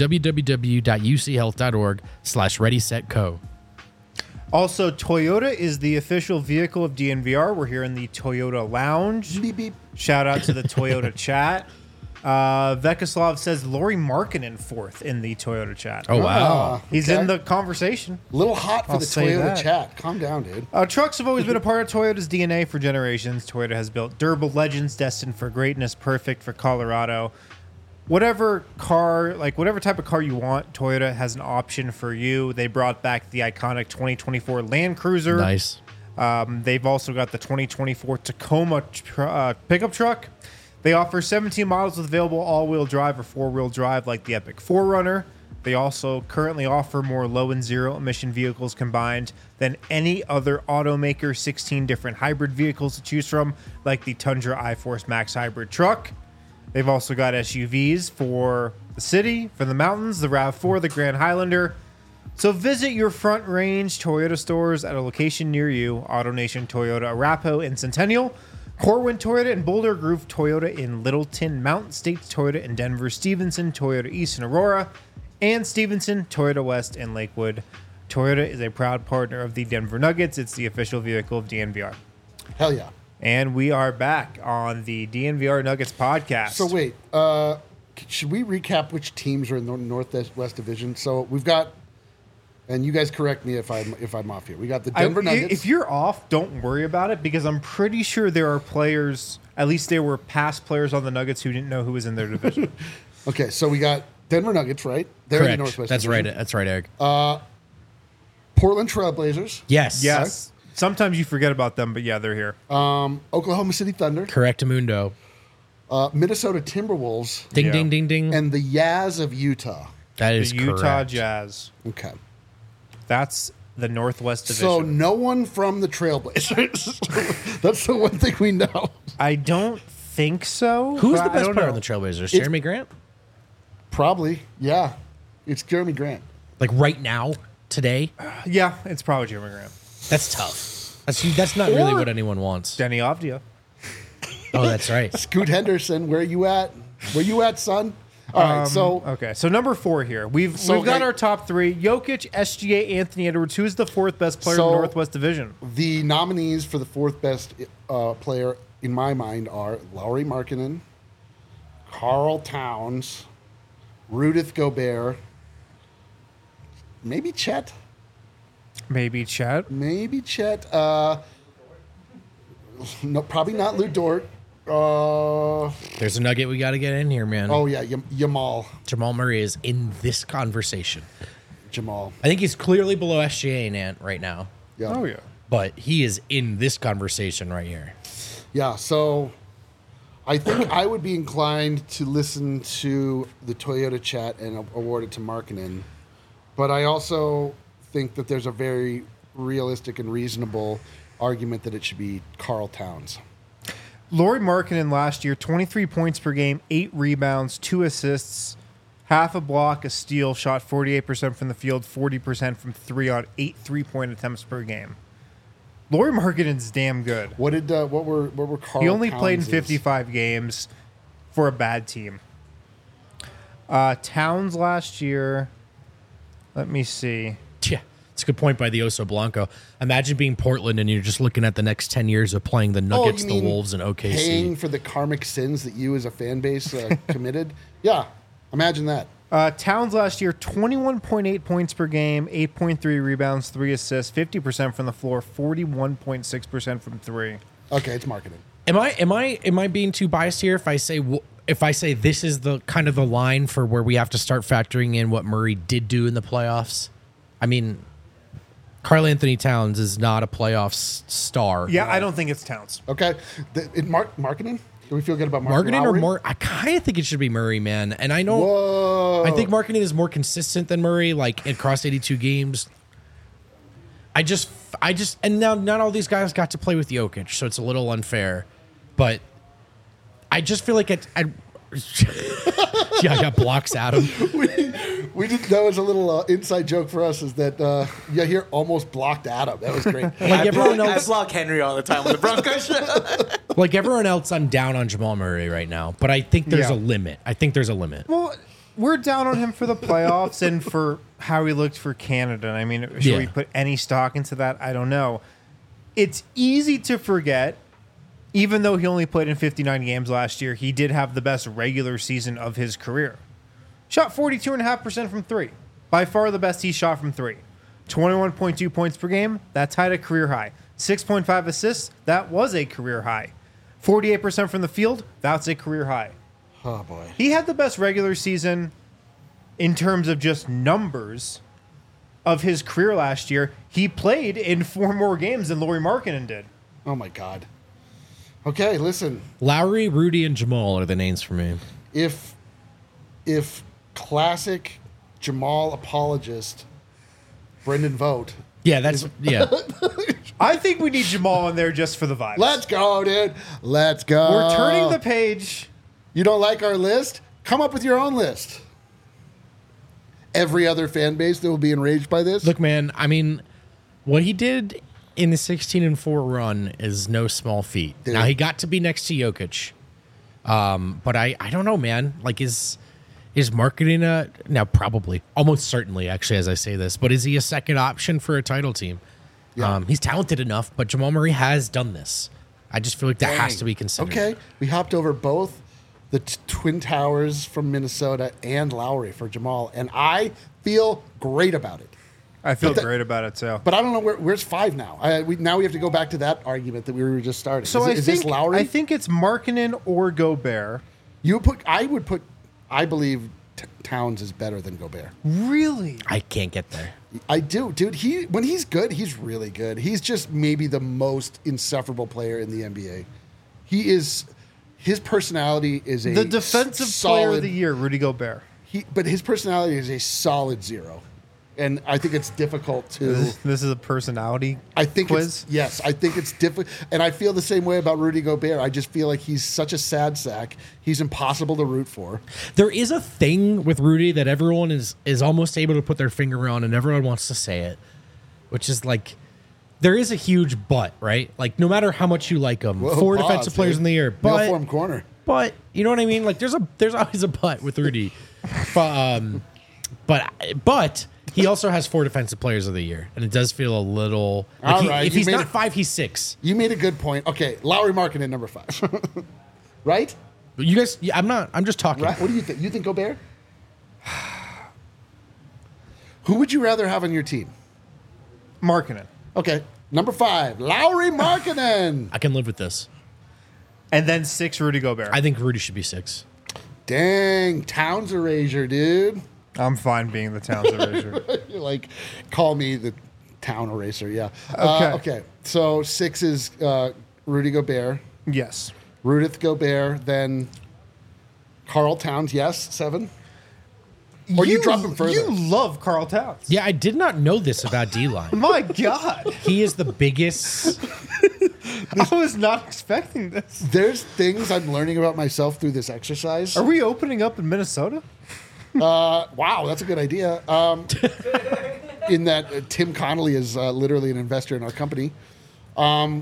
www.uchealth.org/readysetco. Also, Toyota is the official vehicle of DNVR. We're here in the Toyota Lounge. Beep, beep. Shout out to the Toyota chat. Vekoslav says Lori Markkinen fourth in the Toyota chat. Oh, wow. He's okay. in the conversation. Little hot for I'll the say Toyota that. chat. Calm down, dude. Trucks have always been a part of Toyota's DNA for generations. Toyota has built durable legends destined for greatness, perfect for Colorado. Whatever type of car you want, Toyota has an option for you. They brought back the iconic 2024 Land Cruiser. Nice. They've also got the 2024 Tacoma pickup truck. They offer 17 models with available all-wheel drive or four-wheel drive like the Epic 4Runner. They also currently offer more low and zero emission vehicles combined than any other automaker, 16 different hybrid vehicles to choose from like the Tundra iForce Max hybrid truck. They've also got SUVs for the city, for the mountains, the RAV4, the Grand Highlander. So visit your Front Range Toyota stores at a location near you. AutoNation Toyota Arapahoe in Centennial, Corwin Toyota in Boulder, Groove Toyota in Littleton, Mountain States Toyota in Denver, Stevenson Toyota East in Aurora, and Stevenson Toyota West in Lakewood. Toyota is a proud partner of the Denver Nuggets. It's the official vehicle of DNVR. Hell yeah. And we are back on the DNVR Nuggets podcast. So wait, should we recap which teams are in the Northwest Division? So we've got, and you guys correct me if I'm off here. We got the Denver Nuggets. If you're off, don't worry about it because I'm pretty sure there are players, at least there were past players on the Nuggets who didn't know who was in their division. Okay, so we got Denver Nuggets, right? They're in the Correct. Northwest That's Division. right. That's right, Eric. Portland Trailblazers, yes. Yes. Sometimes you forget about them, but yeah, they're here. Oklahoma City Thunder, Correct, Mundo. Minnesota Timberwolves, Ding, Yeah. ding, ding, ding. and the Yaz of Utah. That The is Utah correct. Jazz. Okay. That's the Northwest Division. So no one from the Trailblazers. That's the one thing we know. I don't think so. Who's but the I best don't player know. on the Trailblazers? Jeremy Grant? Probably, yeah. It's Jeremy Grant. Like right now, today? Yeah, it's probably Jeremy Graham. That's tough. That's not really what anyone wants. Denny Avdia. Oh, that's right. Scoot Henderson, where you at? Where you at, son? All right, so Okay, so number 4 here. We've got okay. our top 3. Jokic, SGA, Anthony Edwards. Who's the 4th best player in the So- Northwest Division? the nominees for the 4th best player in my mind are Lauri Markkinen, Carl Towns, Rudith Gobert, maybe Chet. Maybe Chet. No, probably not Lou Dort. There's a nugget we got to get in here, man. Oh yeah, Jamal. Jamal Murray is in this conversation. Jamal. I think he's clearly below SGA Nant right now, Yeah. Oh, yeah. but he is in this conversation right here. Yeah. So I think I would be inclined to listen to the Toyota chat and award it to Markkanen. But I also think that there's a very realistic and reasonable argument that it should be Karl Towns. Lauri Markkanen last year, 23 points per game, 8 rebounds, 2 assists, half a block, a steal, shot 48% from the field, 40% from 3 on 8 3-point attempts per game. Lauri Markkanen's damn good. What were Karl? He only played in Towns' 55 games for a bad team. Towns last year, let me see. Yeah, it's a good point by the Oso Blanco. Imagine being Portland and you're just looking at the next 10 years of playing the Nuggets, you the mean Wolves, and OKC. Paying for the karmic sins that you as a fan base committed? Yeah, imagine that. Towns last year, 21.8 points per game, 8.3 rebounds, 3 assists, 50% from the floor, 41.6% from 3. Okay, it's Markkanen. Am I being too biased here if I say this is the kind of the line for where we have to start factoring in what Murray did do in the playoffs? I mean, Karl Anthony Towns is not a playoff star. Yeah, I don't think it's Towns. Okay, Markkanen? Do we feel good about Markkanen or Lowry? more? I kind of think it should be Murray, man. And I know Whoa. I think Markkanen is more consistent than Murray, like across 82 games. I just, and now not all these guys got to play with Jokic, so it's a little unfair. But I just feel like yeah, I got blocks at him. We did, that was a little inside joke for us. Is that Yahir almost blocked Adam? That was great. Like everyone I else, block Henry all the time on the Broncos show. like everyone else, I'm down on Jamal Murray right now. But I think there's Yeah. a limit. I think there's a limit. Well, we're down on him for the playoffs and for how he looked for Canada. I mean, should we put any stock into that? I don't know. It's easy to forget, even though he only played in 59 games last year, he did have the best regular season of his career. Shot 42.5% from 3. By far the best he shot from 3. 21.2 points per game, that tied a career high. 6.5 assists, that was a career high. 48% from the field, that's a career high. Oh boy. He had the best regular season in terms of just numbers of his career last year. He played in 4 more games than Lauri Markkanen did. Oh my God. Okay, listen. Lowry, Rudy, and Jamal are the names for me. If classic Jamal apologist Brendan Vogt. Yeah, that's yeah. I think we need Jamal in there just for the vibes. Let's go, dude. Let's go. We're turning the page. You don't like our list? Come up with your own list. Every other fan base that will be enraged by this. Look, man. I mean, what he did in the 16-4 run is no small feat. Dude. Now he got to be next to Jokic, but I don't know, man. Like is Markkanen now probably almost certainly actually as I say this, but is he a second option for a title team? Yeah. He's talented enough, but Jamal Murray has done this. I just feel like that has to be considered. Okay, we hopped over both the Twin Towers from Minnesota and Lowry for Jamal, and I feel great about it. I feel But great about it too. But I don't know where's 5 now. Now we have to go back to that argument that we were just starting. So is this Lowry? I think it's Markkanen or Gobert. I believe Towns is better than Gobert. Really? I can't get there. I do, dude. When he's good, he's really good. He's just maybe the most insufferable player in the NBA. His personality is a The defensive player of the year, Rudy Gobert. But his personality is a solid 0. And I think it's difficult to. This is a personality I think quiz. I think it's difficult, and I feel the same way about Rudy Gobert. I just feel like he's such a sad sack. He's impossible to root for. There is a thing with Rudy that everyone is almost able to put their finger on, and everyone wants to say it, which is like there is a huge but, right? Like no matter how much you like him, Whoa, 4 pause, defensive players dude. in the year, Mail but form corner. But you know what I mean? Like there's always a but with Rudy. But he also has 4 defensive players of the year, and it does feel a little. Like All right, if you he's made not it- 5, he's 6. You made a good point. Okay, Lowry Markkanen number 5, right? But you guys, yeah, I'm just talking. Right? What do you think? You think Gobert? Who would you rather have on your team? Markkanen. Okay, number 5, Lowry Markkanen. I can live with this. And then 6, Rudy Gobert. I think Rudy should be 6. Dang, Towns erasure, dude. I'm fine being the Towns eraser. You're like, call me the town eraser. Yeah. Okay. Okay. So 6 is Rudy Gobert. Yes. Rudith Gobert, then Carl Towns, yes, 7. Or you drop him further. You love Carl Towns. Yeah, I did not know this about D-line. My God. He is the biggest. I was not expecting this. There's things I'm learning about myself through this exercise. Are we opening up in Minnesota? Wow, that's a good idea. In that Tim Connolly is literally an investor in our company. I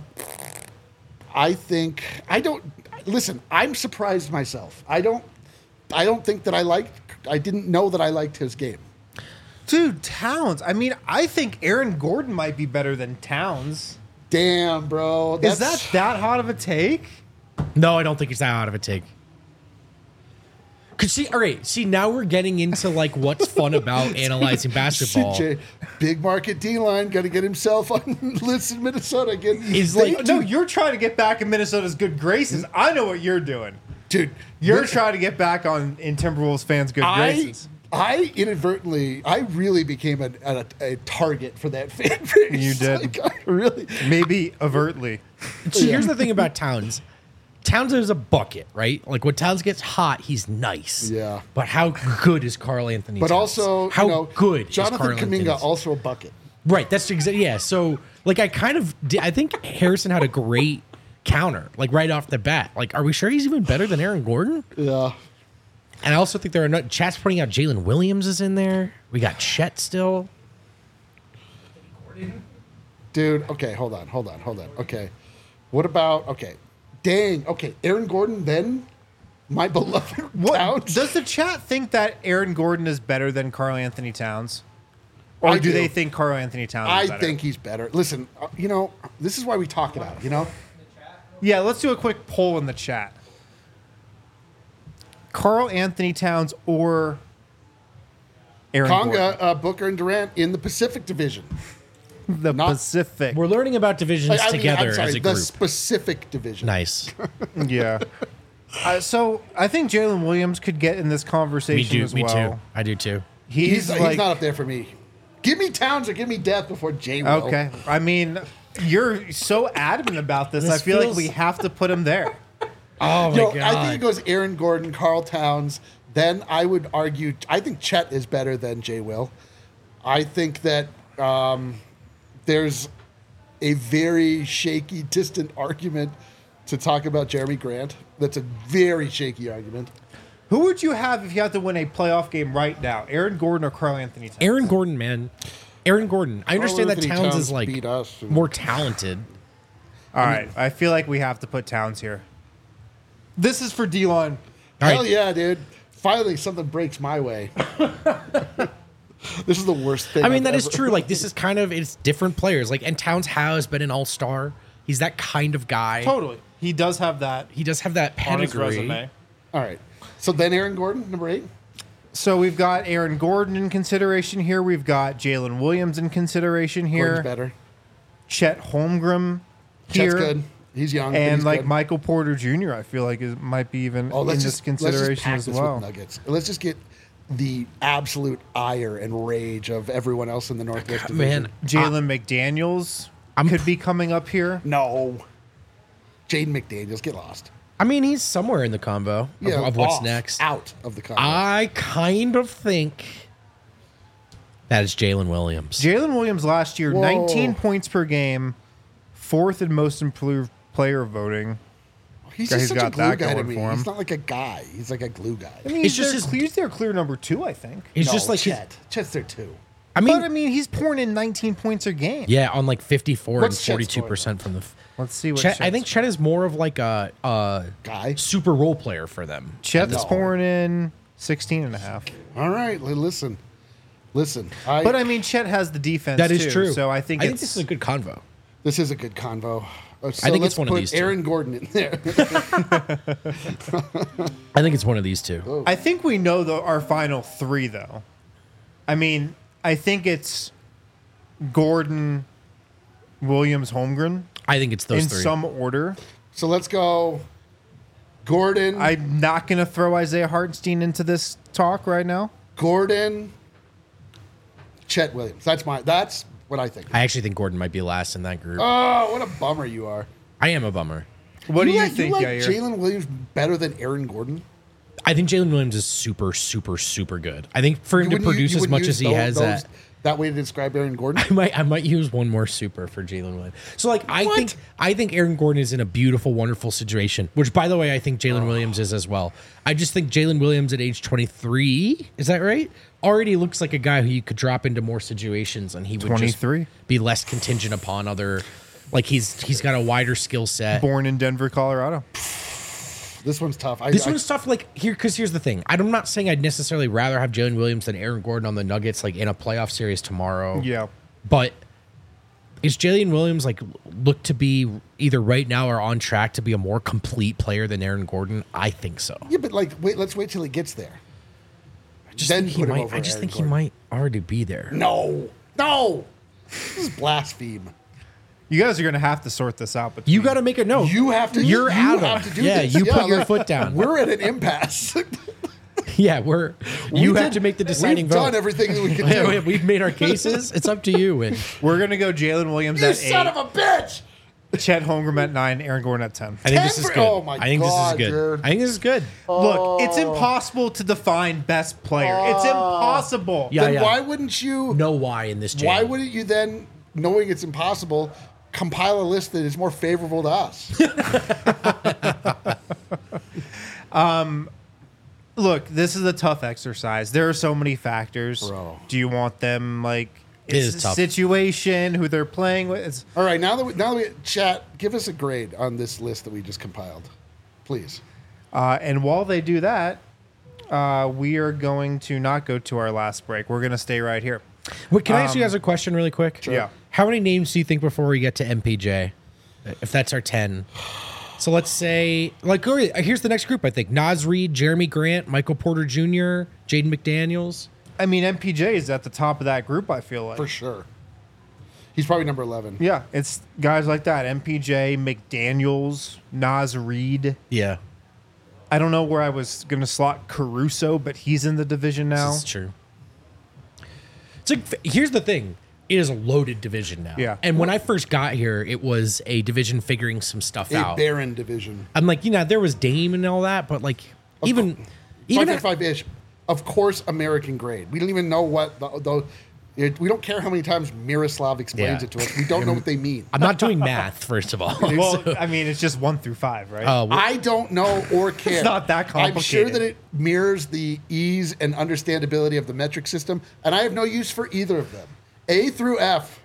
listen, I'm surprised myself. I don't think that I didn't know that I liked his game. Dude, Towns. I mean, I think Aaron Gordon might be better than Towns. Damn, bro. Is that hot of a take? No, I don't think it's that out of a take. Cause see, all right, now we're getting into like what's fun about analyzing basketball. CJ, big market D-line, got to get himself on list in Minnesota again. He's like, No, you're trying to get back in Minnesota's good graces. I know what you're doing. dude, You're trying to get back in Timberwolves fans' good graces. I really became a target for that fan base. You did. Like, I really. Maybe overtly. See, here's the thing about Towns. Towns is a bucket, right? Like when Towns gets hot, he's nice. Yeah. But how good is Karl Anthony But Towns? also, how good Jonathan is Karl Anthony Kuminga, Towns? also a bucket. Right, that's exactly, yeah. So, like, I think Harrison had a great counter, like, right off the bat. Like, are we sure he's even better than Aaron Gordon? Yeah. And I also think there are Chat's putting out Jalen Williams is in there. We got Chet still. Dude, okay, hold on. Okay. What about, okay. Dang, okay, Aaron Gordon, then my beloved What Towns. does the chat think that Aaron Gordon is better than Karl Anthony Towns? Or I do do. they think Karl Anthony Towns is I better? think he's better. Listen, this is why we talk it out, Yeah, let's do a quick poll in the chat. Karl Anthony Towns or Aaron Gordon? Conga, Booker, and Durant in the Pacific Division. The not- Pacific. We're learning about divisions together as a the group. specific division. Nice. Yeah. So I think Jalen Williams could get in this conversation as Me well. too. I do too. He's like, not up there for me. Give me Towns or give me Death before Jay will. okay. I mean, you're so adamant about this. This I feel like feels- we have to put him there. Oh, my No, God. I think it goes Aaron Gordon, Carl Towns. Then I would argue, I think Chet is better than Jay Will. I think that there's a very shaky, distant argument to talk about Jeremy Grant. That's a very shaky argument. Who would you have if you had to win a playoff game right now? Aaron Gordon or Karl Anthony Towns? Aaron Gordon, man. Aaron Gordon. I understand that Anthony Towns Towns is like beat us. more talented. All right. I feel like we have to put Towns here. This is for D-line. All Hell right. yeah, dude. Finally, something breaks my way. This is the worst thing. I mean, I've that is ever- true. Like, this is kind of, it's different players. Like, and Towns has been an all-star. He's that kind of guy. Totally. He does have that He does have that on his pedigree. resume. All right. So then Aaron Gordon, number 8. So we've got Aaron Gordon in consideration here. We've got Jalen Williams in consideration here. Gordon's better. Chet Holmgren here. Chet's good. He's young. but And he's like good. Michael Porter Jr., I feel like might be even in this consideration pack as this well. with Nuggets. Let's just get the absolute ire and rage of everyone else in the Northwest Division. Man, Jalen McDaniels could be coming up here. No. Jaden McDaniels, get lost. I mean, he's somewhere in the combo of what's off, next. Out of the combo. I kind of think that is Jalen Williams. Jalen Williams last year, Whoa. 19 points per game, 4th in most improved player voting. he's he's just such a got glue that guy to going me. for him. He's not like a guy. He's like a glue guy. I mean, It's just his- he's their clear number 2, I think. He's No, just like Chet. Chet's there too. I mean, But I mean, he's pouring in 19 points a game. yeah, on like 54 What's and Chet's 42% from the. Let's see what Chet, I Chet's- think Chet is more of like a Guy. super role player for them. Chet's No. pouring in 16 and a half. All right, listen. But I mean, Chet has the defense. That is too, true. So I think this is a good convo. this is a good convo. So I think let's it's one of put these two. Aaron Gordon in there. I think it's one of these two. I think we know our final 3 though. I mean, I think it's Gordon, Williams, Holmgren I think it's those in three. some order. So let's go Gordon, I'm not going to throw Isaiah Hartenstein into this talk right now. Gordon, Chet Williams. That's what I think. I actually think Gordon might be last in that group. Oh, what a bummer you are. I am a bummer. What do you like, think, You like Yair? Jalen Williams better than Aaron Gordon? I think Jalen Williams is super, super, super good. I think for him to Wouldn't produce you as wouldn't much use as he has that way to describe Aaron Gordon? I might use one more super for Jalen Williams. So like I think Aaron Gordon is in a beautiful, wonderful situation, which by the way I think Jalen Williams is as well. I just think Jalen Williams at age 23, is that right? Already looks like a guy who you could drop into more situations and he would 23? just be less contingent upon other, like he's got a wider skill set. Born in Denver, Colorado. This one's tough. This one's tough. Like because here's the thing. I'm not saying I'd necessarily rather have Jalen Williams than Aaron Gordon on the Nuggets, like in a playoff series tomorrow. Yeah. But is Jalen Williams like look to be either right now or on track to be a more complete player than Aaron Gordon? I think so. Yeah, but like, let's wait till he gets there. I just Then think he put him might. over I just Aaron think Gordon. he might already be there. No. This is blaspheme. You guys are going to have to sort this out. Between You got to make a note. You have to. You're you Adam. have to do Yeah, this. you put your like, foot down. We're at an impasse. Yeah, you have did- to make the deciding We've vote. done everything that we can Yeah, do. we've made our cases. It's up to you. And We're going to go Jalen Williams You at son 8, of a bitch! Chet Holmgren at 9, Aaron Gordon at 10. I think this is Denver- good. oh my I think God, this is good. dude. I think this is good. Look, it's impossible to define best player. It's impossible. Yeah, Then yeah. why wouldn't you? No why in this jam. Why wouldn't you then, knowing it's impossible, compile a list that is more favorable to us? Look, this is a tough exercise. There are so many factors. Bro. Do you want them like It is tough. situation, who they're playing with? It's, All right, now that we chat, give us a grade on this list that we just compiled, please. and while they do that, we are going to not go to our last break. We're going to stay right here. Wait, can I ask you guys a question really quick? Sure. Yeah. How many names do you think before we get to MPJ? If that's our 10. So let's say, like, here's the next group, I think. Naz Reid, Jeremy Grant, Michael Porter Jr., Jaden McDaniels. I mean, MPJ is at the top of that group, I feel like. For sure. He's probably number 11. Yeah, it's guys like that. MPJ, McDaniels, Naz Reid. Yeah. I don't know where I was going to slot Caruso, but he's in the division now. This is true. It's like, here's the thing. It is a loaded division now. Yeah. And when I first got here, it was a division figuring some stuff A out. barren division. I'm like, there was Dame and all that, but like, even 5-5-ish. Of course, American grade. We don't even know what we don't care how many times Miroslav explains Yeah. it to us. We don't know what they mean. I'm not doing math, first of all. Well, I mean, it's just 1 through 5, right? I don't know or care. not that I'm sure complicated. that it mirrors the ease and understandability of the metric system, and I have no use for either of them. A through F.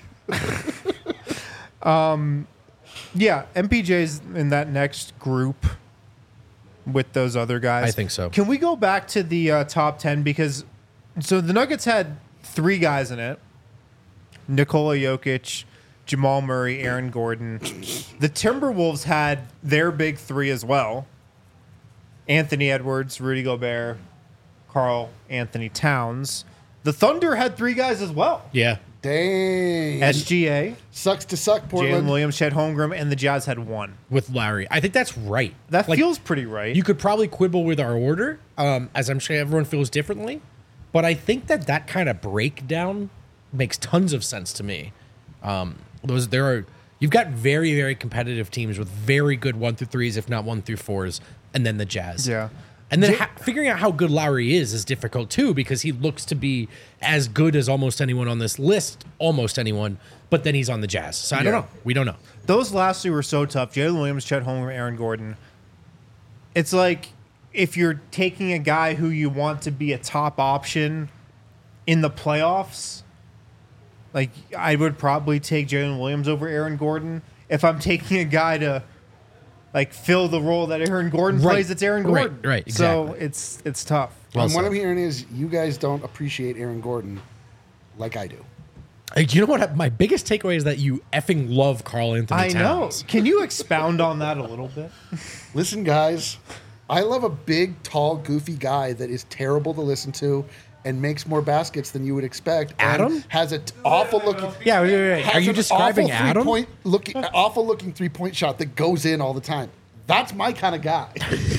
Yeah, MPJ's in that next group with those other guys. I think so. Can we go back to the top 10? Because so the Nuggets had 3 guys in it. Nikola Jokic, Jamal Murray, Aaron Gordon. The Timberwolves had their big 3 as well. Anthony Edwards, Rudy Gobert, Karl Anthony Towns. The Thunder had 3 guys as well. Yeah. Dang. SGA, Sucks to suck, Jalen Portland. Williams, Chet Holmgren, and the Jazz had 1. With Lowry. I think that's right. That Like, feels pretty right. You could probably quibble with our order, as I'm sure everyone feels differently. But I think that kind of breakdown makes tons of sense to me. You've got very, very competitive teams with very good 1 through 3s, if not 1 through 4s, and then the Jazz. Yeah. And then figuring out how good Lowry is difficult too, because he looks to be as good as almost anyone on this list, almost anyone, but then he's on the Jazz. So I don't know. We don't know. Those last 2 were so tough. Jalen Williams, Chet Holmgren, Aaron Gordon. It's like if you're taking a guy who you want to be a top option in the playoffs, like I would probably take Jalen Williams over Aaron Gordon. If I'm taking a guy to like fill the role that Aaron Gordon Right. plays, it's Aaron Gordon. Right, So exactly. it's tough. Well And what said. I'm hearing is you guys don't appreciate Aaron Gordon like I do. Hey, you know what? My biggest takeaway is that you effing love Karl Anthony I know. Towns. Can you expound on that a little bit? Listen, guys, I love a big, tall, goofy guy that is terrible to listen to and makes more baskets than you would expect. and Adam? has an awful looking. Yeah, wait. has Are you an describing awful Adam? Awful looking 3-point shot that goes in all the time. That's my kind of guy.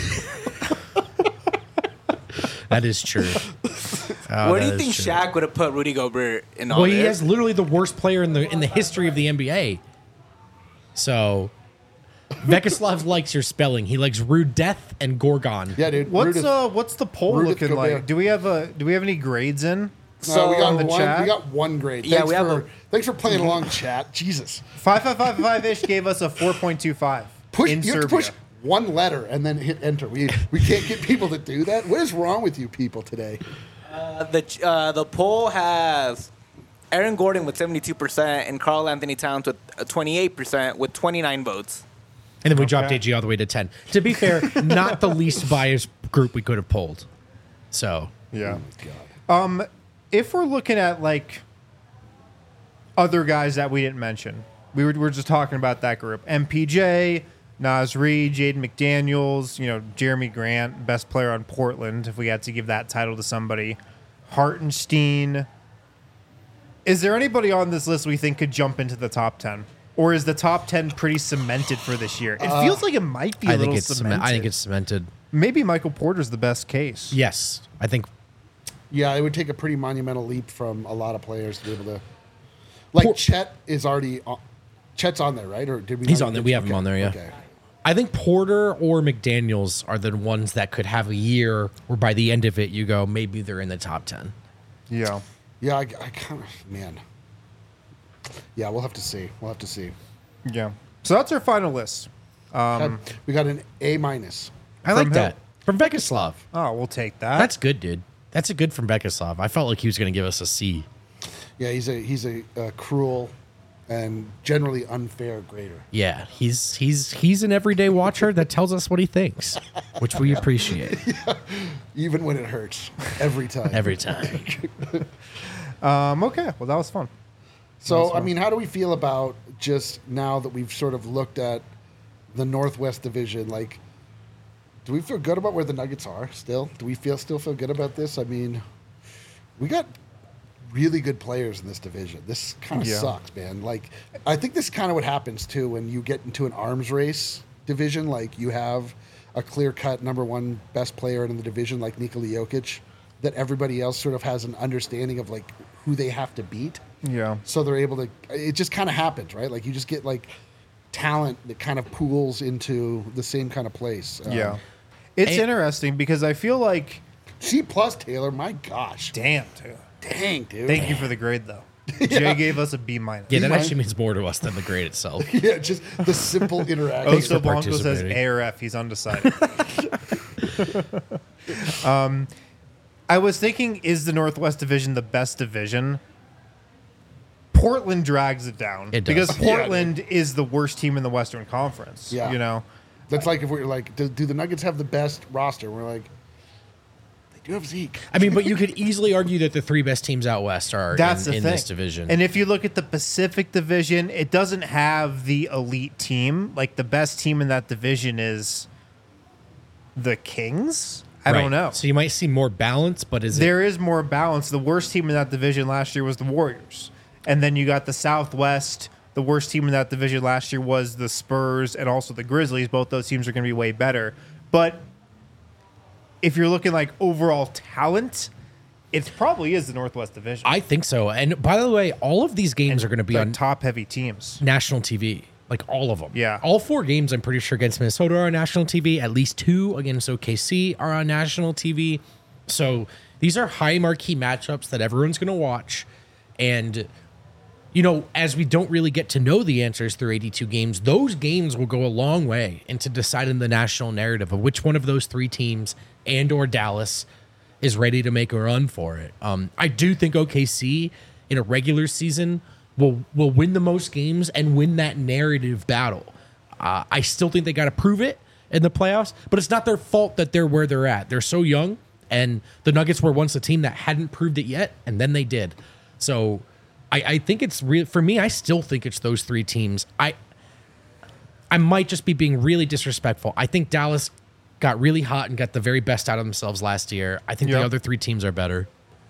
That is true. Where do you think Shaq would have put Rudy Gobert in all Well, he this? has literally the worst player in the history of the NBA. So, Vekislav likes your spelling. He likes Rude Death and Gorgon. Yeah, dude. What's the poll Rudith looking Gobert. like? Do we have any grades in? So we got the one. chat? We got one grade. Yeah, Thanks for playing along, chat. Jesus. 5555-ish gave us a 4.25 in You have Serbia. to push one letter and then hit enter. We can't get people to do that. What is wrong with you people today? The poll has Aaron Gordon with 72% and Karl Anthony Towns with 28% with 29 votes. And then we dropped Okay. AG all the way to 10. To be fair, not the least biased group we could have polled. So, Yeah. If we're looking at like other guys that we didn't mention, we're just talking about that group: MPJ, Naz Reid, Jaden McDaniels, Jeremy Grant, best player on Portland. If we had to give that title to somebody, Hartenstein. Is there anybody on this list we think could jump into the top 10? Or is the top 10 pretty cemented for this year? It feels like it might be a little cemented. I think it's cemented. Maybe Michael Porter's the best case. Yes, I think. Yeah, it would take a pretty monumental leap from a lot of players to be able to. Like Chet is already. Chet's on there, right? Or did we? He's not on there. get- We have him okay, on there, yeah. Okay. I think Porter or McDaniels are the ones that could have a year where by the end of it you go, maybe they're in the top 10. Yeah. Yeah, I kind of man. Yeah, we'll have to see. Yeah. So that's our final list. We got an A minus. I like From that. who? From Vekislav. Oh, we'll take that. That's good, dude. That's a good from Vekislav. I felt like he was going to give us a C. Yeah, he's a cruel and generally unfair grader. Yeah, he's an everyday watcher that tells us what he thinks, which we appreciate Even when it hurts, every time. every time. Okay. Well, that was fun. So, I mean, how do we feel about just now that we've sort of looked at the Northwest Division? Like, do we feel good about where the Nuggets are still? Do we still feel good about this? I mean, we got really good players in this division. This kind of Yeah. sucks, man. Like, I think this kind of what happens, too, when you get into an arms race division. Like, you have a clear-cut number one best player in the division like Nikola Jokic, that everybody else sort of has an understanding of, like, who they have to beat. Yeah. So they're able to. It just kind of happens, right? Like you just get like talent that kind of pools into the same kind of place. Yeah. It's And- interesting because I feel like, C plus Taylor. My gosh. damn, dude. Dang, dude. Thank you for the grade, though. Jay gave us a B minus. Yeah, that Mine- actually means more to us than the grade itself. Yeah, just the simple interaction. Oso for Blanco says participating. A or F. He's undecided. I was thinking, is the Northwest Division the best division? Portland drags it down. It does. Because Yeah, Portland is the worst team in the Western Conference. Yeah. You know? That's like if we're like, do the Nuggets have the best roster? We're like, they do have Zeke. I mean, but you could easily argue that the three best teams out west are That's in the thing. this division. And if you look at the Pacific Division, it doesn't have the elite team. Like the best team in that division is the Kings. I Right. don't know. So you might see more balance, but is it? There is more balance. The worst team in that division last year was the Warriors. And then you got the Southwest. The worst team in that division last year was the Spurs and also the Grizzlies. Both those teams are going to be way better. But if you're looking like overall talent, it probably is the Northwest Division. I think so. And by the way, all of these games are going to be Like on top heavy teams. national TV. Like all of them. Yeah. All four games, I'm pretty sure, against Minnesota are on national TV. At least two against OKC are on national TV. So these are high marquee matchups that everyone's going to watch. And, you know, as we don't really get to know the answers through 82 games, those games will go a long way into deciding the national narrative of which one of those three teams and or Dallas is ready to make a run for it. I do think OKC in a regular season will win the most games and win that narrative battle. I still think they got to prove it in the playoffs, but it's not their fault that they're where they're at. They're so young, and the Nuggets were once a team that hadn't proved it yet, and then they did. So I think it's real for me. I still think it's those three teams. I might just be being really disrespectful. I think Dallas got really hot and got the very best out of themselves last year. I think Yeah. the other three teams are better.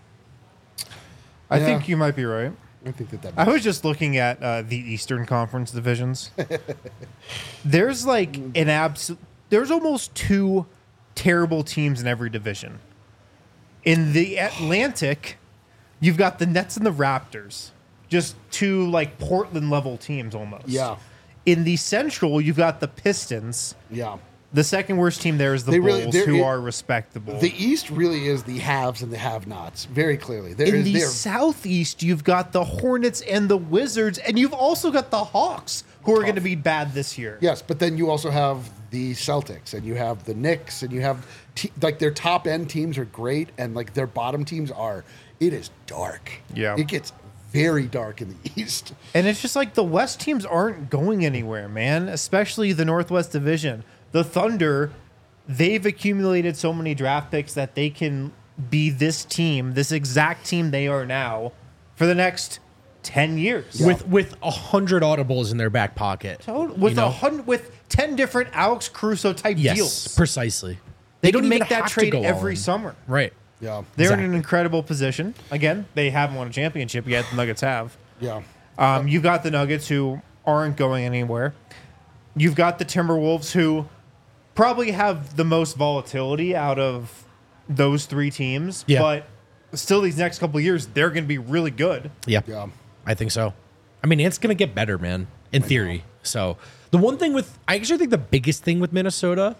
I Yeah. think you might be right. I think that I was just looking at the Eastern Conference divisions. There's like there's almost two terrible teams in every division. In the Atlantic, you've got the Nets and the Raptors, just two like Portland level teams almost. Yeah. In the Central, you've got the Pistons. Yeah. The second worst team there is the They Bulls, really- they're- who it- are respectable. The East really is the haves and the have-nots, very clearly. In the Southeast, you've got the Hornets and the Wizards, and you've also got the Hawks, who are going to be bad this year. Yes, but then you also have the Celtics, and you have the Knicks, and you have like their top end teams are great, and like their bottom teams are. It is dark. Yeah. It gets very dark in the East. And it's just like the West teams aren't going anywhere, man, especially the Northwest Division. The Thunder, they've accumulated so many draft picks that they can be this team, this exact team they are now, for the next 10 years. With 100 audibles in their back pocket. With You know? 100, with 10 different Alex Caruso type Yes, deals. precisely. They don't can make even that have to trade go every all in. summer. Right. Yeah. They're in Exactly. an incredible position. Again, they haven't won a championship yet. The Nuggets have. Yeah. You've got the Nuggets, who aren't going anywhere. You've got the Timberwolves, who probably have the most volatility out of those three teams. Yeah. But still, these next couple of years, they're going to be really good. Yeah. Yeah. I think so. I mean, it's going to get better, man, in theory. So the one thing I actually think the biggest thing with Minnesota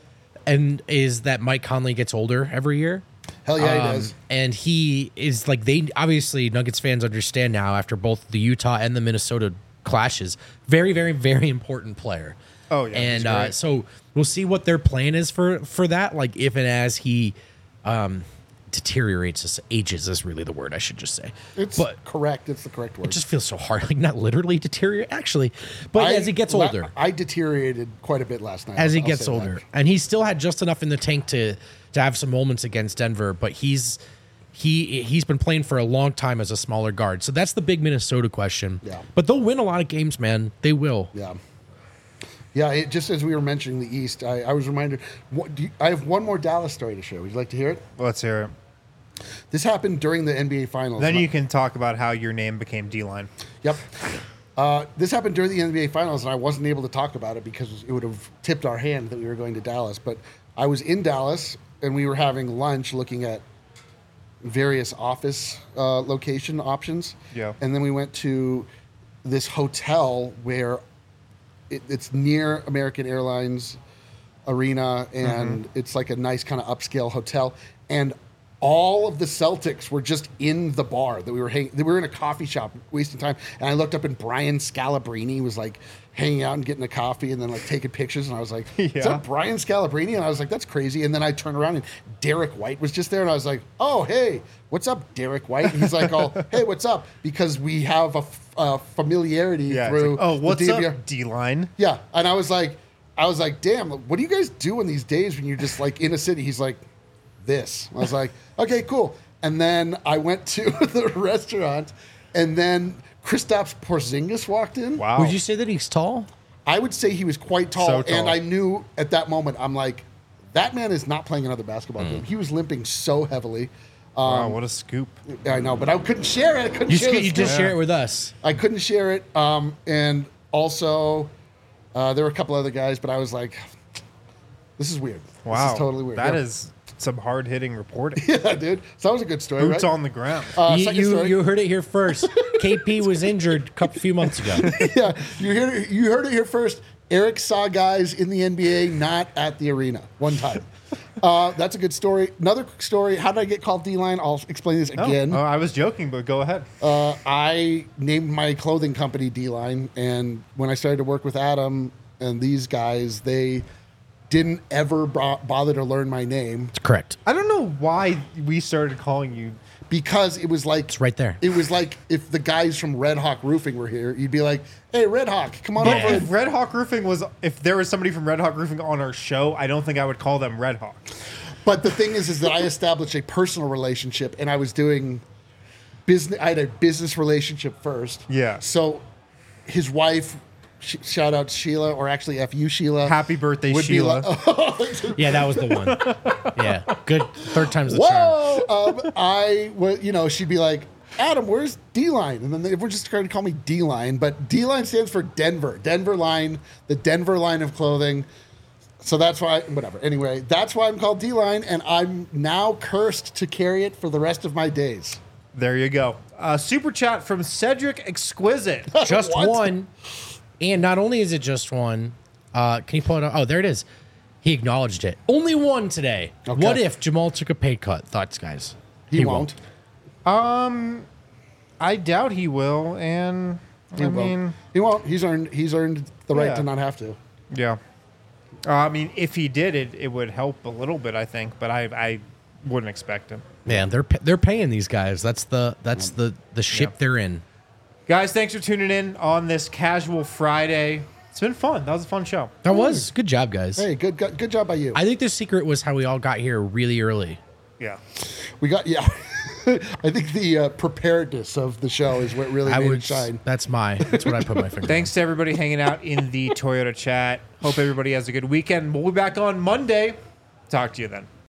is that Mike Conley gets older every year. Hell yeah, he does. And he is like, they obviously, Nuggets fans understand now after both the Utah and the Minnesota clashes, very, very, very important player. Oh, yeah, he's And great. so we'll see what their plan is for that. Like if and as he deteriorates, ages is really the word I should just say. It's correct. It's the correct word. It just feels so hard. Like not literally deteriorate, actually, but as he gets older, I deteriorated quite a bit last night. as he I'll gets say that. older, and he still had just enough in the tank to have some moments against Denver. But he's been playing for a long time as a smaller guard, so that's the big Minnesota question. Yeah. But they'll win a lot of games, man. They will. Yeah. Yeah, just as we were mentioning the East, I was reminded. I have one more Dallas story to share. Would you like to hear it? Let's hear it. This happened during the NBA Finals. Then you can talk about how your name became D-Line. Yep. This happened during the NBA Finals, and I wasn't able to talk about it because it would have tipped our hand that we were going to Dallas. But I was in Dallas, and we were having lunch looking at various office location options. Yeah. And then we went to this hotel where it's near American Airlines Arena, and it's like a nice kind of upscale hotel. And all of the Celtics were just in the bar that we were hanging. We were in a coffee shop wasting time. And I looked up and Brian Scalabrine was like hanging out and getting a coffee and then like taking pictures. And I was like, is Yeah. that Brian Scalabrine? And I was like, that's crazy. And then I turned around and Derek White was just there. And I was like, oh, hey, what's up, Derek White? And he's like, oh, hey, what's up? Because we have a familiarity Yeah. It's through like, oh, the what's DVR. up, D-Line? Yeah. And I was like, damn, what do you guys do in these days when you're just like in a city? He's like, this. I was like, okay, cool. And then I went to the restaurant, and then Kristaps Porzingis walked in. Wow. Would you say that he's tall? I would say he was quite tall, So tall. and I knew at that moment, I'm like, that man is not playing another basketball game. He was limping so heavily. Wow, what a scoop. I know, but I couldn't share it. I couldn't You share the just scoop. share it with us. I couldn't share it. And also, there were a couple other guys, but I was like, this is weird. Wow. This is totally weird. That Yeah. is some hard-hitting reporting. Yeah, dude. So that was a good story, Boots right? on the ground. Second story. You heard it here first. KP was injured a few months ago. Yeah, you heard it here first. Eric saw guys in the NBA not at the arena one time. That's a good story. Another story. How did I get called D-Line? I'll explain this again. Oh, I was joking, but go ahead. I named my clothing company D-Line, and when I started to work with Adam and these guys, they didn't ever bother to learn my name Correct. I don't know why we started calling you. because it was like It's right there. It was like if the guys from Red Hawk Roofing were here, you'd be like, "Hey, Red Hawk, come on Yeah. over." If Red Hawk Roofing if there was somebody from Red Hawk Roofing on our show, I don't think I would call them Red Hawk. But the thing is that I established a personal relationship, and I was doing business. I had a business relationship first. Yeah. So his wife, shout out Sheila, or actually F.U. Sheila. Happy birthday, would be Sheila. like, Yeah, that was the one. Yeah, good. Third time's the charm. whoa! She'd be like, Adam, where's D-Line? And then everyone just started to call me D-Line. But D-Line stands for Denver. Denver line, the Denver line of clothing. So that's why, whatever. Anyway, that's why I'm called D-Line, and I'm now cursed to carry it for the rest of my days. There you go. Super chat from Cedric Exquisite. Just What? one And not only is it just one, can you pull it up? Oh, there it is. He acknowledged it. Only one today. Okay. What if Jamal took a pay cut? Thoughts, guys? He won't. I doubt he will, and He won't. He's earned the right Yeah. to not have to. yeah. I mean, if he did it would help a little bit, I think, but I wouldn't expect him. Man, they're paying these guys. That's the ship Yeah. they're in. Guys, thanks for tuning in on this casual Friday. It's been fun. That was a fun show. That was good job, guys. Hey, good job by you. I think the secret was how we all got here really early. Yeah. We got I think the preparedness of the show is what really made it shine. That's what I put my finger. Thanks to everybody hanging out in the Toyota chat. Hope everybody has a good weekend. We'll be back on Monday. Talk to you then.